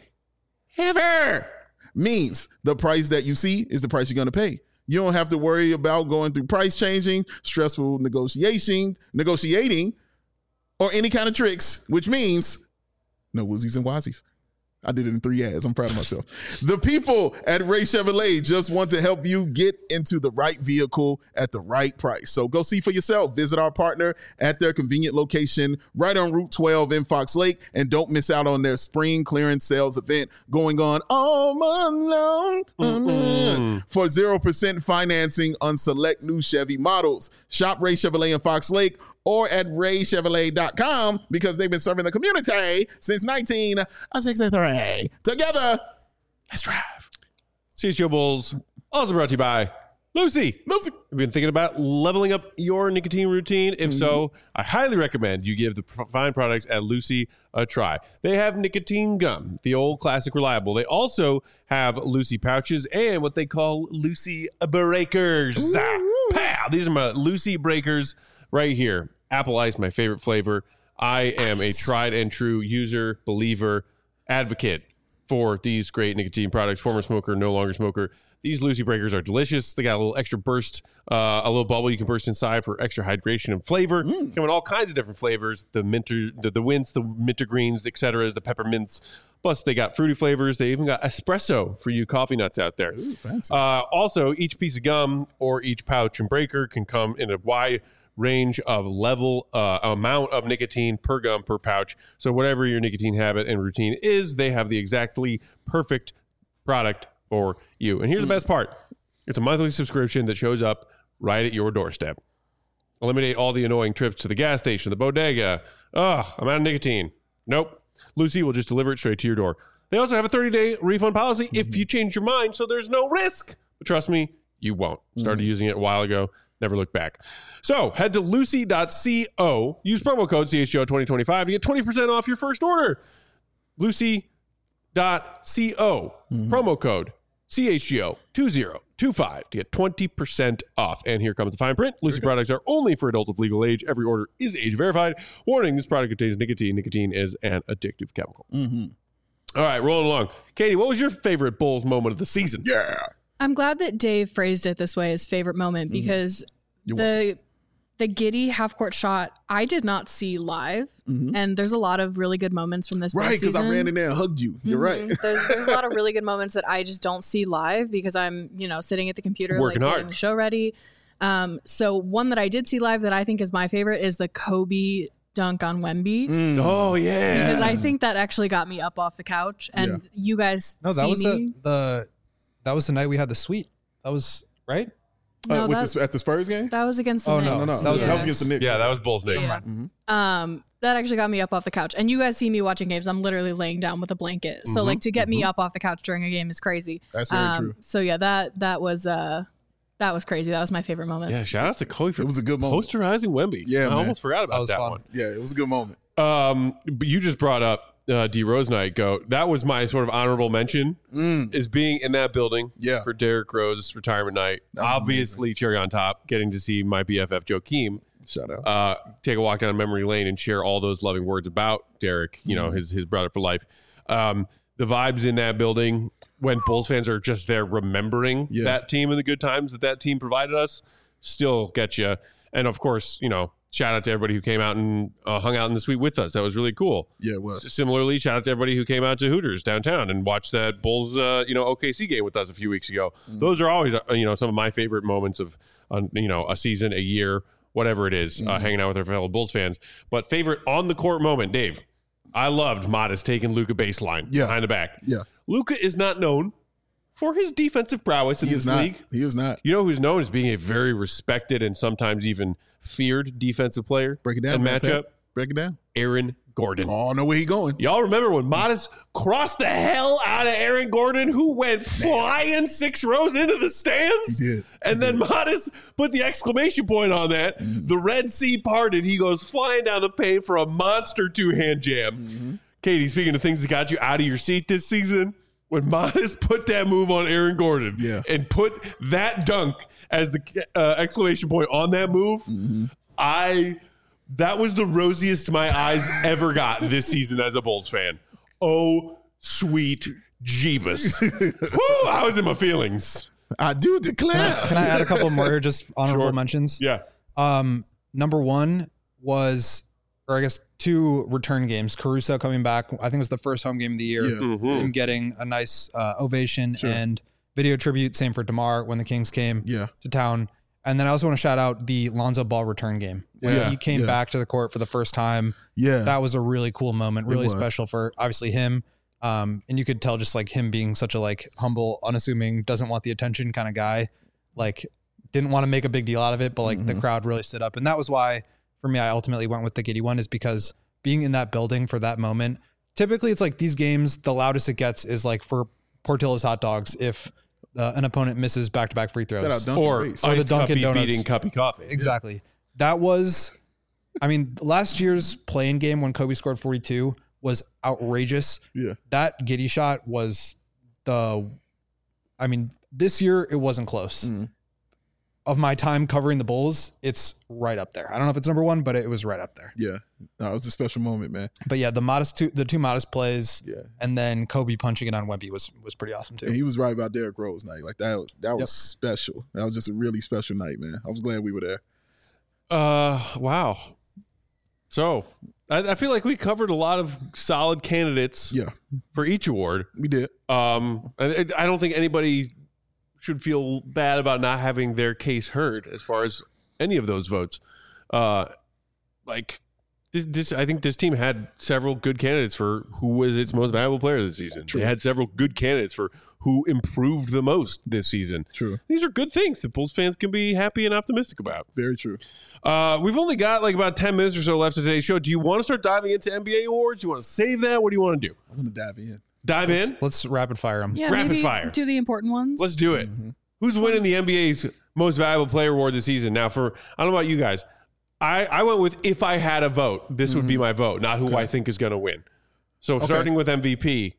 S3: ever means the price that you see is the price you're going to pay. You don't have to worry about going through price changing, stressful negotiation, negotiating, or any kind of tricks, which means no woozies and wazies. I did it in three ads. I'm proud of myself. The people at Ray Chevrolet just want to help you get into the right vehicle at the right price. So go see for yourself. Visit our partner at their convenient location right on Route twelve in Fox Lake. And don't miss out on their spring clearance sales event going on all month long mm-hmm. for zero percent financing on select new Chevy models. Shop Ray Chevrolet in Fox Lake or at ray chevrolet dot com because they've been serving the community since nineteen sixty-three. Together, let's drive.
S1: C H G O Bulls, also brought to you by Lucy.
S3: Lucy.
S1: Have you been thinking about leveling up your nicotine routine? If mm-hmm. so, I highly recommend you give the fine products at Lucy a try. They have nicotine gum, the old classic reliable. They also have Lucy pouches and what they call Lucy breakers. Ah, pow! These are my Lucy breakers right here. Apple Ice, my favorite flavor. I am a tried and true user, believer, advocate for these great nicotine products. Former smoker, no longer smoker. These Lucy breakers are delicious. They got a little extra burst, uh, a little bubble you can burst inside for extra hydration and flavor. Mm. Come in all kinds of different flavors. The minter, the, the wints, the wintergreens, et cetera, the peppermints. Plus, they got fruity flavors. They even got espresso for you coffee nuts out there.
S3: Ooh, fancy.
S1: Uh, also, each piece of gum or each pouch and breaker can come in a wide range of level uh, amount of nicotine per gum per pouch. So whatever your nicotine habit and routine is, they have the exactly perfect product for you. And here's the best part. It's a monthly subscription that shows up right at your doorstep. Eliminate all the annoying trips to the gas station, the bodega. Ugh, I'm out of nicotine. Nope. Lucy will just deliver it straight to your door. They also have a thirty-day refund policy mm-hmm. if you change your mind, so there's no risk. But trust me, you won't. Started mm-hmm. using it a while ago. Never look back. So head to lucy dot co. Use promo code C H G O twenty twenty-five to get twenty percent off your first order. lucy dot co. Mm-hmm. Promo code C H G O twenty twenty-five to get twenty percent off. And here comes the fine print. Lucy products are only for adults of legal age. Every order is age verified. Warning, this product contains nicotine. Nicotine is an addictive chemical. Mm-hmm. All right, rolling along. Katie, what was your favorite Bulls moment of the season?
S3: Yeah.
S2: I'm glad that Dave phrased it this way, his favorite moment, because mm-hmm. the the Giddey half court shot I did not see live, mm-hmm. and there's a lot of really good moments from this.
S3: Right, because I ran in there and hugged you. You're mm-hmm. right.
S2: there's, there's a lot of really good moments that I just don't see live because I'm you know sitting at the computer
S1: working
S2: like
S1: hard,
S2: getting the show ready. Um, so one that I did see live that I think is my favorite is the Kobe dunk on Wemby.
S1: Mm. Oh yeah,
S2: because I think that actually got me up off the couch, and yeah. you guys
S4: no that
S2: see
S4: was
S2: me.
S4: A, the. That was the night we had the suite. That was right.
S2: No,
S3: uh, with
S2: that,
S3: the, at the Spurs game.
S2: That was against the
S4: oh,
S2: Knicks.
S4: no,
S3: no, no,
S4: that was,
S3: yeah. that was against the Knicks.
S1: Yeah, that was Bulls Knicks.
S2: Yeah.
S3: Mm-hmm.
S2: Um, that actually got me up off the couch. And you guys see me watching games. I'm literally laying down with a blanket. So mm-hmm. like to get mm-hmm. me up off the couch during a game is crazy.
S3: That's very
S2: um,
S3: true.
S2: So yeah, that that was uh that was crazy. That was my favorite moment.
S1: Yeah, shout out to Kobe for
S3: it was a good moment.
S1: Posterizing Wemby.
S3: Yeah,
S1: I
S3: man.
S1: almost forgot about
S4: that,
S1: that
S4: fun.
S1: one.
S3: Yeah, it was a good moment.
S1: Um, but you just brought up uh, D Rose night. Go. That was my sort of honorable mention
S3: mm.
S1: is being in that building.
S3: Yeah.
S1: For Derrick Rose's retirement night. Obviously, amazing. Cherry on top. Getting to see my B F F Joakim.
S3: Shout out.
S1: Uh, take a walk down memory lane and share all those loving words about Derrick. You know, mm. his his brother for life. Um, the vibes in that building when Bulls fans are just there remembering yeah. that team and the good times that that team provided us still get you. And of course, you know, shout out to everybody who came out and uh, hung out in the suite with us. That was really cool.
S3: Yeah, it was.
S1: S- Similarly, shout out to everybody who came out to Hooters downtown and watched that Bulls, uh, you know, O K C game with us a few weeks ago. Mm. Those are always, uh, you know, some of my favorite moments of, uh, you know, a season, a year, whatever it is, mm. uh, hanging out with our fellow Bulls fans. But favorite on the court moment, Dave. I loved Modest taking Luka baseline
S3: yeah.
S1: behind the back.
S3: Yeah,
S1: Luka is not known for his defensive prowess in
S3: he
S1: this
S3: is not.
S1: league.
S3: He is not.
S1: You know who's known as being a very respected and sometimes even feared defensive player.
S3: Break it down.
S1: And
S3: man,
S1: matchup.
S3: Pat. Break it down.
S1: Aaron Gordon.
S3: Oh, I know where he going.
S1: Y'all remember when Modest crossed the hell out of Aaron Gordon, who went flying six rows into the stands?
S3: He did.
S1: And
S3: he
S1: then
S3: did.
S1: Modest put the exclamation point on that. Mm-hmm. The Red Sea parted. He goes flying down the paint for a monster two-hand jam. Mm-hmm. Katie, speaking of things that got you out of your seat this season, when Modest put that move on Aaron Gordon
S3: yeah.
S1: and put that dunk as the uh, exclamation point on that move, mm-hmm. I that was the rosiest my eyes ever got this season as a Bulls fan. Oh, sweet Jeebus. Woo, I was in my feelings.
S3: I do declare.
S4: Can I, can I add a couple more just honorable
S1: Sure.
S4: mentions?
S1: Yeah.
S4: Um, number one was, or I guess two return games. Caruso coming back. I think it was the first home game of the year.
S3: Yeah.
S1: Mm-hmm.
S4: Him getting a nice uh, ovation
S3: Sure.
S4: and video tribute. Same for DeMar when the Kings came
S3: Yeah.
S4: to town. And then I also want to shout out the Lonzo Ball return game. When
S3: Yeah.
S4: he came
S3: Yeah.
S4: back to the court for the first time.
S3: Yeah.
S4: That was a really cool moment.
S3: It
S4: Really
S3: was.
S4: special for obviously him. Um, and you could tell just like him being such a like humble, unassuming, doesn't want the attention kind of guy. Like didn't want to make a big deal out of it, but like
S3: Mm-hmm.
S4: the crowd really stood up. And that was why for me, I ultimately went with the Giddey one, is because being in that building for that moment, typically it's like these games, the loudest it gets is like for Portillo's hot dogs. If uh, an opponent misses back-to-back free throws.
S3: Shout out Dunkin'
S1: Or,
S3: Race.
S4: Or the
S1: iced
S4: Dunkin'
S1: Cuppy
S4: Donuts.
S1: beating Cuppy Coffee.
S4: Exactly. That was, I mean, last year's play-in game when Kobe scored forty-two was outrageous.
S3: Yeah.
S4: That Giddey shot was the, I mean, this year it wasn't close.
S3: Mm.
S4: Of my time covering the Bulls, it's right up there. I don't know if it's number one, but it was right up there.
S3: Yeah. No, it was a special moment, man.
S4: But yeah, the modest two, the two modest plays,
S3: Yeah.
S4: and then Kobe punching it on Wemby was was pretty awesome too.
S3: And he was right about Derrick Rose night. Like that was that was
S4: Yep.
S3: special. That was just a really special night, man. I was glad we were there.
S1: Uh, wow. So I, I feel like we covered a lot of solid candidates
S3: Yeah,
S1: for each award.
S3: we did.
S1: Um, I, I don't think anybody should feel bad about not having their case heard as far as any of those votes. Uh, like this, this, I think this team had several good candidates for who was its most valuable player this season.
S3: True.
S1: They had several good candidates for who improved the most this season.
S3: True.
S1: These are good things that Bulls fans can be happy and optimistic about.
S3: Very true.
S1: Uh, we've only got like about ten minutes or so left of today's show. Do you want to start diving into N B A awards? Do you want to save that? What do you want to do?
S3: I'm gonna dive in.
S1: Dive in?
S4: Let's rapid fire them.
S2: Yeah,
S1: Rapid
S2: maybe
S1: fire.
S2: do the important ones.
S1: Let's do it.
S3: Mm-hmm.
S1: Who's winning the N B A's most valuable player award this season? Now, for I don't know about you guys, I, I went with if I had a vote, this would be my vote, not who
S3: Okay.
S1: I think is going to win. So starting with M V P,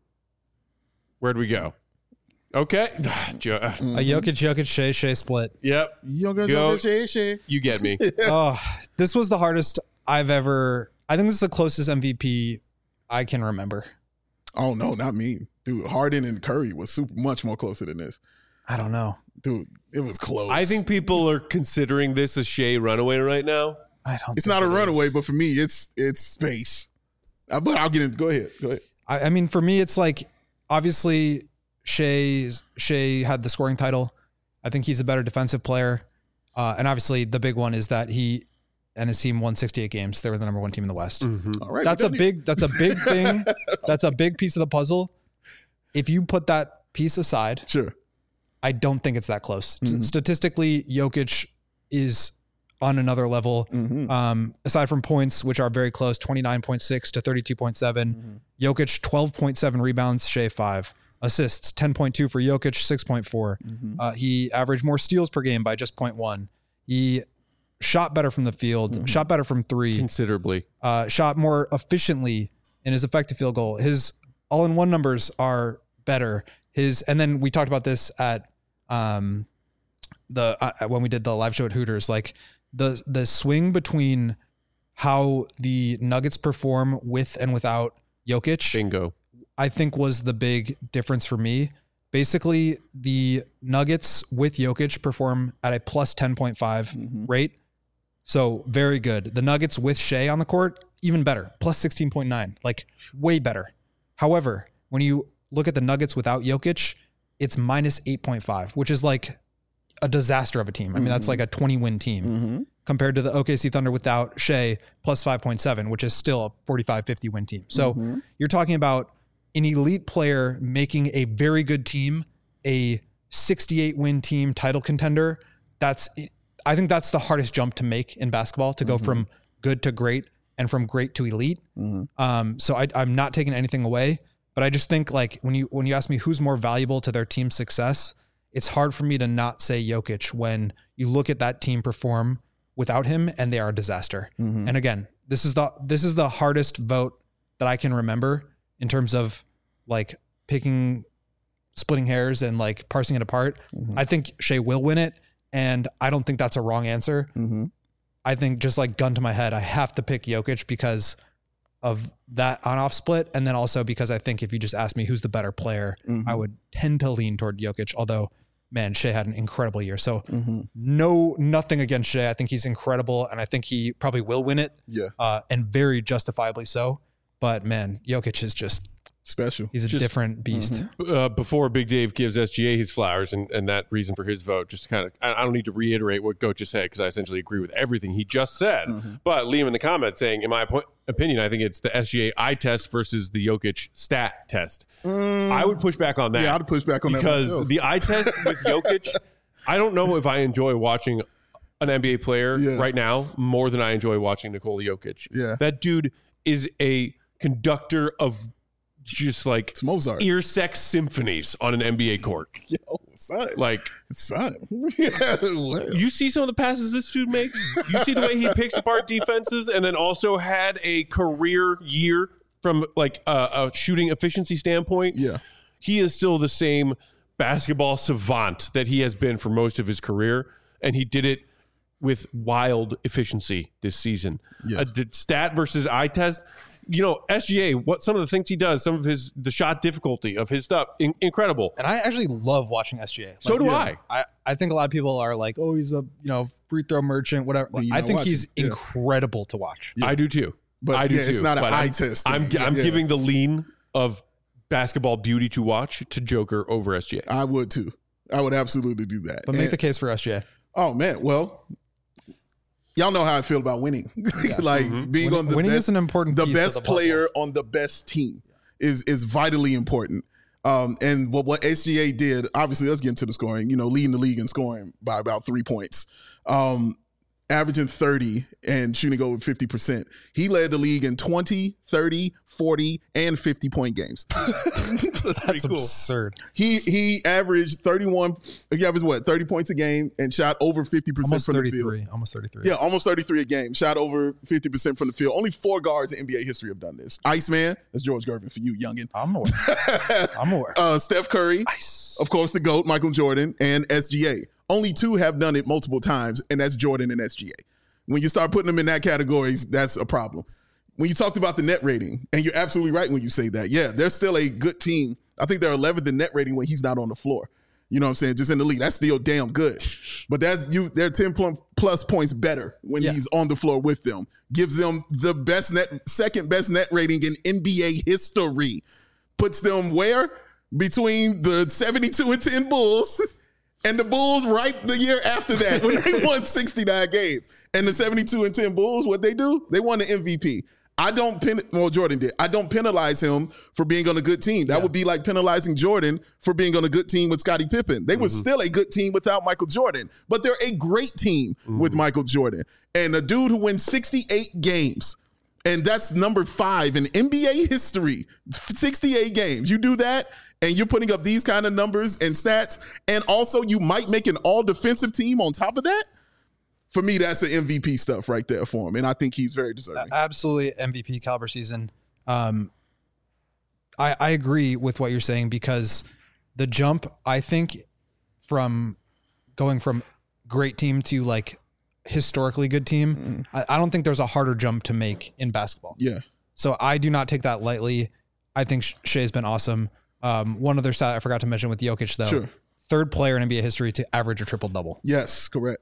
S1: where'd we go? Okay, Jo- uh,
S4: A Jokic, Jokic, Shea, Shea split.
S1: yep,
S3: Young girls
S1: Go.
S3: go shit, shit.
S1: you get me.
S4: Oh, this was the hardest I've ever. I think this is the closest M V P I can remember.
S3: Oh no, not me, dude. Harden and Curry was super much more closer than this,
S4: I don't know.
S3: dude. It was close.
S1: I think people are considering this a Shea runaway right now.
S4: I don't.
S3: it's
S4: think
S3: not a
S4: it
S3: runaway,
S4: is.
S3: but for me, it's it's space. Uh, but I'll get into. Go ahead. Go ahead.
S4: I, I mean, for me, it's like obviously Shea Shea had the scoring title. I think he's a better defensive player, uh, and obviously the big one is that he and his team won sixty-eight games. They were the number one team in the West.
S3: All right.
S4: That's
S3: we
S4: a
S3: done it.
S4: big. That's a big thing. That's a big piece of the puzzle. If you put that piece aside,
S3: Sure.
S4: I don't think it's that close.
S3: Mhm.
S4: Statistically, Jokic is on another level.
S3: Mm-hmm.
S4: Um, aside from points, which are very close, twenty-nine point six to thirty-two point seven.
S3: Mm-hmm.
S4: Jokic, twelve point seven rebounds, Shea five. Assists, ten point two for Jokic, six point four.
S3: Mm-hmm.
S4: Uh, he averaged more steals per game by just zero point one. He shot better from the field,
S3: Mhm.
S4: shot better from three,
S1: Considerably.
S4: uh, shot more efficiently in his effective field goal. His all-in-one numbers are better. His and then we talked about this at um, the uh, when we did the live show at Hooters. Like the the swing between how the Nuggets perform with and without Jokic,
S1: Bingo.
S4: I think was the big difference for me. Basically, the Nuggets with Jokic perform at a plus ten point five
S3: Mhm.
S4: rate. So very good. The Nuggets with Shea on the court, even better. Plus sixteen point nine, like way better. However, when you look at the Nuggets without Jokic, it's minus eight point five, which is like a disaster of a team. I mean, mm-hmm. that's like a twenty win team mm-hmm. compared to the O K C Thunder without Shea plus five point seven, which is still a forty-five, fifty win team. So mm-hmm. you're talking about an elite player making a very good team, a sixty-eight win team title contender. That's, I think that's the hardest jump to make in basketball, to go mm-hmm. from good to great and from great to elite. Mm-hmm. Um, so I, I'm not taking anything away, but I just think like when you, when you ask me who's more valuable to their team's success, it's hard for me to not say Jokic when you look at that team perform without him and they are a disaster. Mm-hmm. And again, this is the, this is the hardest vote that I can remember in terms of like picking, splitting hairs and like parsing it apart. Mm-hmm. I think Shea will win it. And I don't think that's a wrong answer. Mm-hmm. I think just like gun to my head, I have to pick Jokic because of that on-off split. And then also because I think if you just ask me who's the better player, mm-hmm. I would tend to lean toward Jokic. Although, man, Shea had an incredible year. So mm-hmm. no, nothing against Shea. I think he's incredible. And I think he probably will win it.
S3: Yeah.
S4: Uh, and very justifiably so. But man, Jokic is just
S3: special.
S4: He's a
S1: just,
S4: different beast.
S1: Mm-hmm. Uh, before Big Dave gives S G A his flowers and, and that reason for his vote, just kind of, I, I don't need to reiterate what Goat just said because I essentially agree with everything he just said. Mm-hmm. But Liam in the comments saying, in my po- opinion, I think it's the S G A eye test versus the Jokic stat test. Mm. I would push back on that.
S3: Yeah, I'd push back on
S1: because
S3: that because
S1: the eye test with Jokic, I don't know if I enjoy watching an N B A player yeah. right now more than I enjoy watching Nikola Jokic.
S3: Yeah,
S1: that dude is a conductor of just like
S3: it's Mozart.
S1: Ear sex symphonies on an N B A court.
S3: Yo, son.
S1: Like,
S3: son. Yeah,
S1: you see some of the passes this dude makes? You see the way he picks apart defenses and then also had a career year from like a, a shooting efficiency standpoint.
S3: Yeah.
S1: He is still the same basketball savant that he has been for most of his career. And he did it with wild efficiency this season.
S3: Yeah.
S1: Uh, the stat versus eye test. You know, S G A, what some of the things he does, some of his, the shot difficulty of his stuff, in, incredible.
S4: And I actually love watching S G A. Like,
S1: so do
S4: yeah,
S1: I.
S4: I. I think a lot of people are like, oh, he's a, you know, free throw merchant, whatever. Like, I think he's yeah. incredible to watch.
S1: Yeah. I do too.
S3: But
S1: I do
S3: yeah,
S1: too.
S3: It's not an
S1: but
S3: eye
S1: I'm,
S3: test.
S1: I'm,
S3: yeah,
S1: I'm
S3: yeah.
S1: giving the lean of basketball beauty to watch to Joker over S G A.
S3: I would too. I would absolutely do that.
S4: But
S3: and,
S4: make the case for S G A.
S3: Oh, man. Well, y'all know how I feel about winning. Yeah. like mm-hmm. being
S4: winning,
S3: on the
S4: winning
S3: best,
S4: is an important
S3: the
S4: piece
S3: best
S4: of the
S3: player on the best team is is vitally important. Um, and what what S G A did, obviously, let's get into the scoring. You know, leading the league in scoring by about three points, um, averaging thirty and shooting over fifty percent. He led the league in twenty, thirty, forty, and fifty point games.
S1: That's,
S4: That's
S1: cool.
S4: absurd.
S3: He he averaged thirty-one. He averaged what thirty points a game and shot over fifty percent from the field.
S4: Almost thirty-three.
S3: Yeah, almost thirty-three a game. Shot over fifty percent from the field. Only four guards in N B A history have done this. Iceman, that's George Gervin for you, youngin.
S4: I'm aware. I'm aware.
S3: Uh, Steph Curry,
S4: Ice.
S3: Of course, the GOAT, Michael Jordan, and S G A. Only two have done it multiple times, and that's Jordan and S G A. When you start putting them in that category, that's a problem. When you talked about the net rating, and you're absolutely right when you say that, yeah, they're still a good team. I think they're eleventh in net rating when he's not on the floor. You know what I'm saying? Just in the league. That's still damn good. But that's you. They're ten plus points better when yeah. he's on the floor with them. Gives them the best net, second best net rating in N B A history. Puts them where? Between the seventy-two and ten Bulls and the Bulls right the year after that when they won sixty-nine games. And the seventy-two and ten Bulls, what they do? They won the M V P. I don't pen well, Jordan did. I don't penalize him for being on a good team. That yeah. would be like penalizing Jordan for being on a good team with Scottie Pippen. They mm-hmm. were still a good team without Michael Jordan, but they're a great team mm-hmm. with Michael Jordan. And a dude who wins sixty-eight games, and that's number five in N B A history, sixty-eight games. You do that, and you're putting up these kind of numbers and stats, and also you might make an all-defensive team on top of that. For me, that's the M V P stuff right there for him, and I think he's very deserving.
S4: Absolutely, M V P caliber season. Um, I I agree with what you're saying because the jump, I think, from going from great team to like historically good team, mm. I, I don't think there's a harder jump to make in basketball.
S3: Yeah.
S4: So I do not take that lightly. I think Shea's been awesome. Um, one other stat I forgot to mention with Jokic though,
S3: sure.
S4: third player in N B A history to average a triple double.
S3: Yes, correct.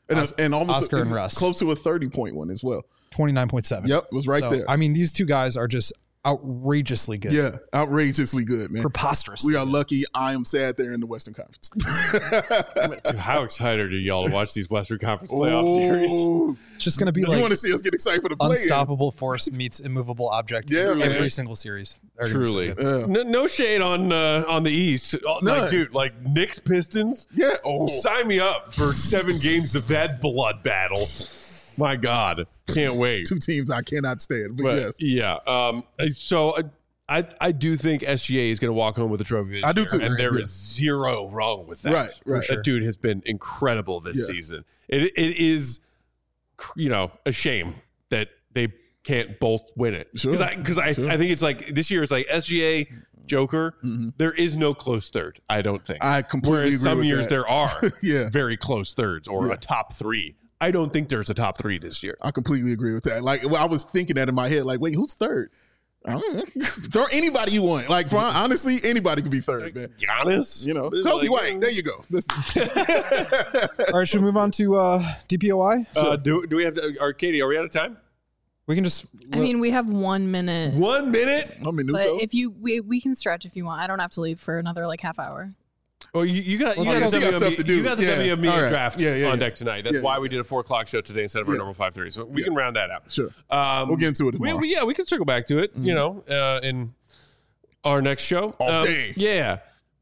S3: and, uh, and almost
S4: Oscar
S3: a,
S4: and Russ.
S3: close to a thirty point one as well.
S4: twenty-nine point seven.
S3: Yep, it was right
S4: So,
S3: there.
S4: I mean, these two guys are just outrageously good.
S3: Yeah, outrageously good, man.
S4: Preposterously.
S3: We are lucky. I am sad they're in the Western Conference.
S1: Dude, how excited are y'all to watch these Western Conference playoff series?
S3: Oh,
S4: It's just going to be
S3: you
S4: like
S3: want to see us get excited for the play?
S4: unstoppable force meets immovable object.
S3: Yeah, man.
S4: every single series. They're gonna be so
S1: Truly,
S4: good.
S3: Yeah.
S1: no, no shade on uh, on the East. Uh, Like,
S3: None.
S1: dude, like Knicks Pistons.
S3: Yeah. Oh,
S1: Sign me up for seven games of that blood battle. My God, can't wait.
S3: two teams I cannot stand. But,
S1: But
S3: yes,
S1: yeah, um, so uh, I I do think S G A is going to walk home with a trophy this
S3: I do
S1: year,
S3: too.
S1: and there is
S3: Yeah.
S1: zero wrong with that.
S3: Right, right.
S1: That dude has been incredible this
S3: Yeah.
S1: season. It it is, you know, a shame that they can't both win it.
S3: Sure.
S1: Because I because I,
S3: Sure.
S1: I think it's like this year is like S G A, Joker.
S3: Mhm.
S1: There is no close third. I don't think.
S3: I completely
S1: Whereas
S3: agree
S1: some
S3: with
S1: years
S3: that.
S1: there are
S3: Yeah.
S1: very close thirds or
S3: Yeah.
S1: a top three. I don't think there's a top three this year.
S3: I completely agree with that. Like, well, I was thinking that in my head. Like, wait, who's third? I don't know. Throw anybody you want. Like, for, honestly, anybody could be third, man.
S1: Giannis,
S3: You know,
S1: It's
S3: Kobe
S1: like-
S3: White. There you go. Listen.
S4: All right, should we move on to uh, D P O I?
S1: Uh, do do we have to? Are Katie? Are we out of time?
S4: We can just.
S2: I mean, we have one minute,
S1: One minute.
S3: I'm in
S2: but
S3: Nuco.
S2: if you we, we can stretch if you want. I don't have to leave for another like half hour.
S1: Oh, you, you got you
S3: Well,
S1: got,
S3: you
S1: the
S3: got stuff to
S1: W M E,
S3: do.
S1: you got the
S3: Yeah.
S1: W M E
S3: All right.
S1: draft
S3: Yeah, yeah,
S1: on
S3: yeah.
S1: deck tonight. That's
S3: Yeah,
S1: why
S3: yeah.
S1: we did a four o'clock show today instead of our
S3: Yeah.
S1: normal five thirty. So we
S3: Yeah.
S1: can round that out.
S3: Sure.
S1: Um,
S3: We'll get into it
S1: we,
S3: tomorrow.
S1: we, yeah, we can circle back to it. You know, uh, in our next show.
S3: Off
S1: Um,
S3: day.
S1: Yeah.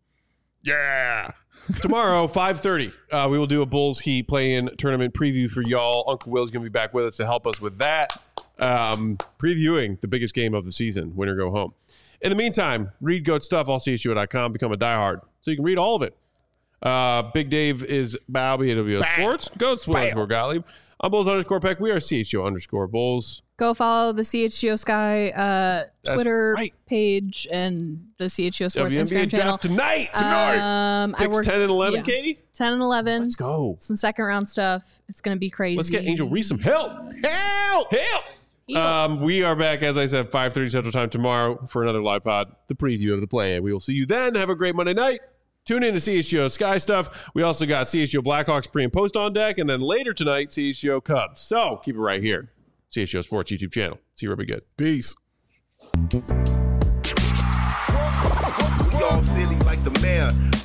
S3: Yeah.
S1: Tomorrow, five thirty, uh, we will do a Bulls Heat play-in tournament preview for y'all. Uncle Will's going to be back with us to help us with that, um, previewing the biggest game of the season, win or go home. In the meantime, read Goat Stuff, all C H U O dot com, become a diehard, so you can read all of it. Uh, Big Dave is Balby at W O Sports. Goats, Will underscore Gottlieb. I'm Bulls underscore Peck. We are C H U O underscore Bulls.
S2: Go follow the C H G O Sky uh,
S1: That's
S2: Twitter
S1: right.
S2: page and the C H G O Sports
S1: W N B A
S2: Instagram channel.
S1: draft tonight.
S2: Um, I
S1: Picks
S2: worked
S1: ten and eleven,
S2: yeah.
S1: Katie?
S2: ten and eleven.
S1: Let's go.
S2: Some second round stuff. It's gonna be crazy.
S1: Let's get Angel Reese some help. Help! Help! Um, we are back, as I said, five thirty Central Time tomorrow for another live pod, the preview of the play. We will see you then. Have a great Monday night. Tune in to C H G O Sky Stuff. We also got C H G O Blackhawks pre and post on deck. And then later tonight, C H G O Cubs. So keep it right here. C H G O Sports YouTube channel. See you, Ruby Good.
S3: Peace.
S5: We all silly like the mayor.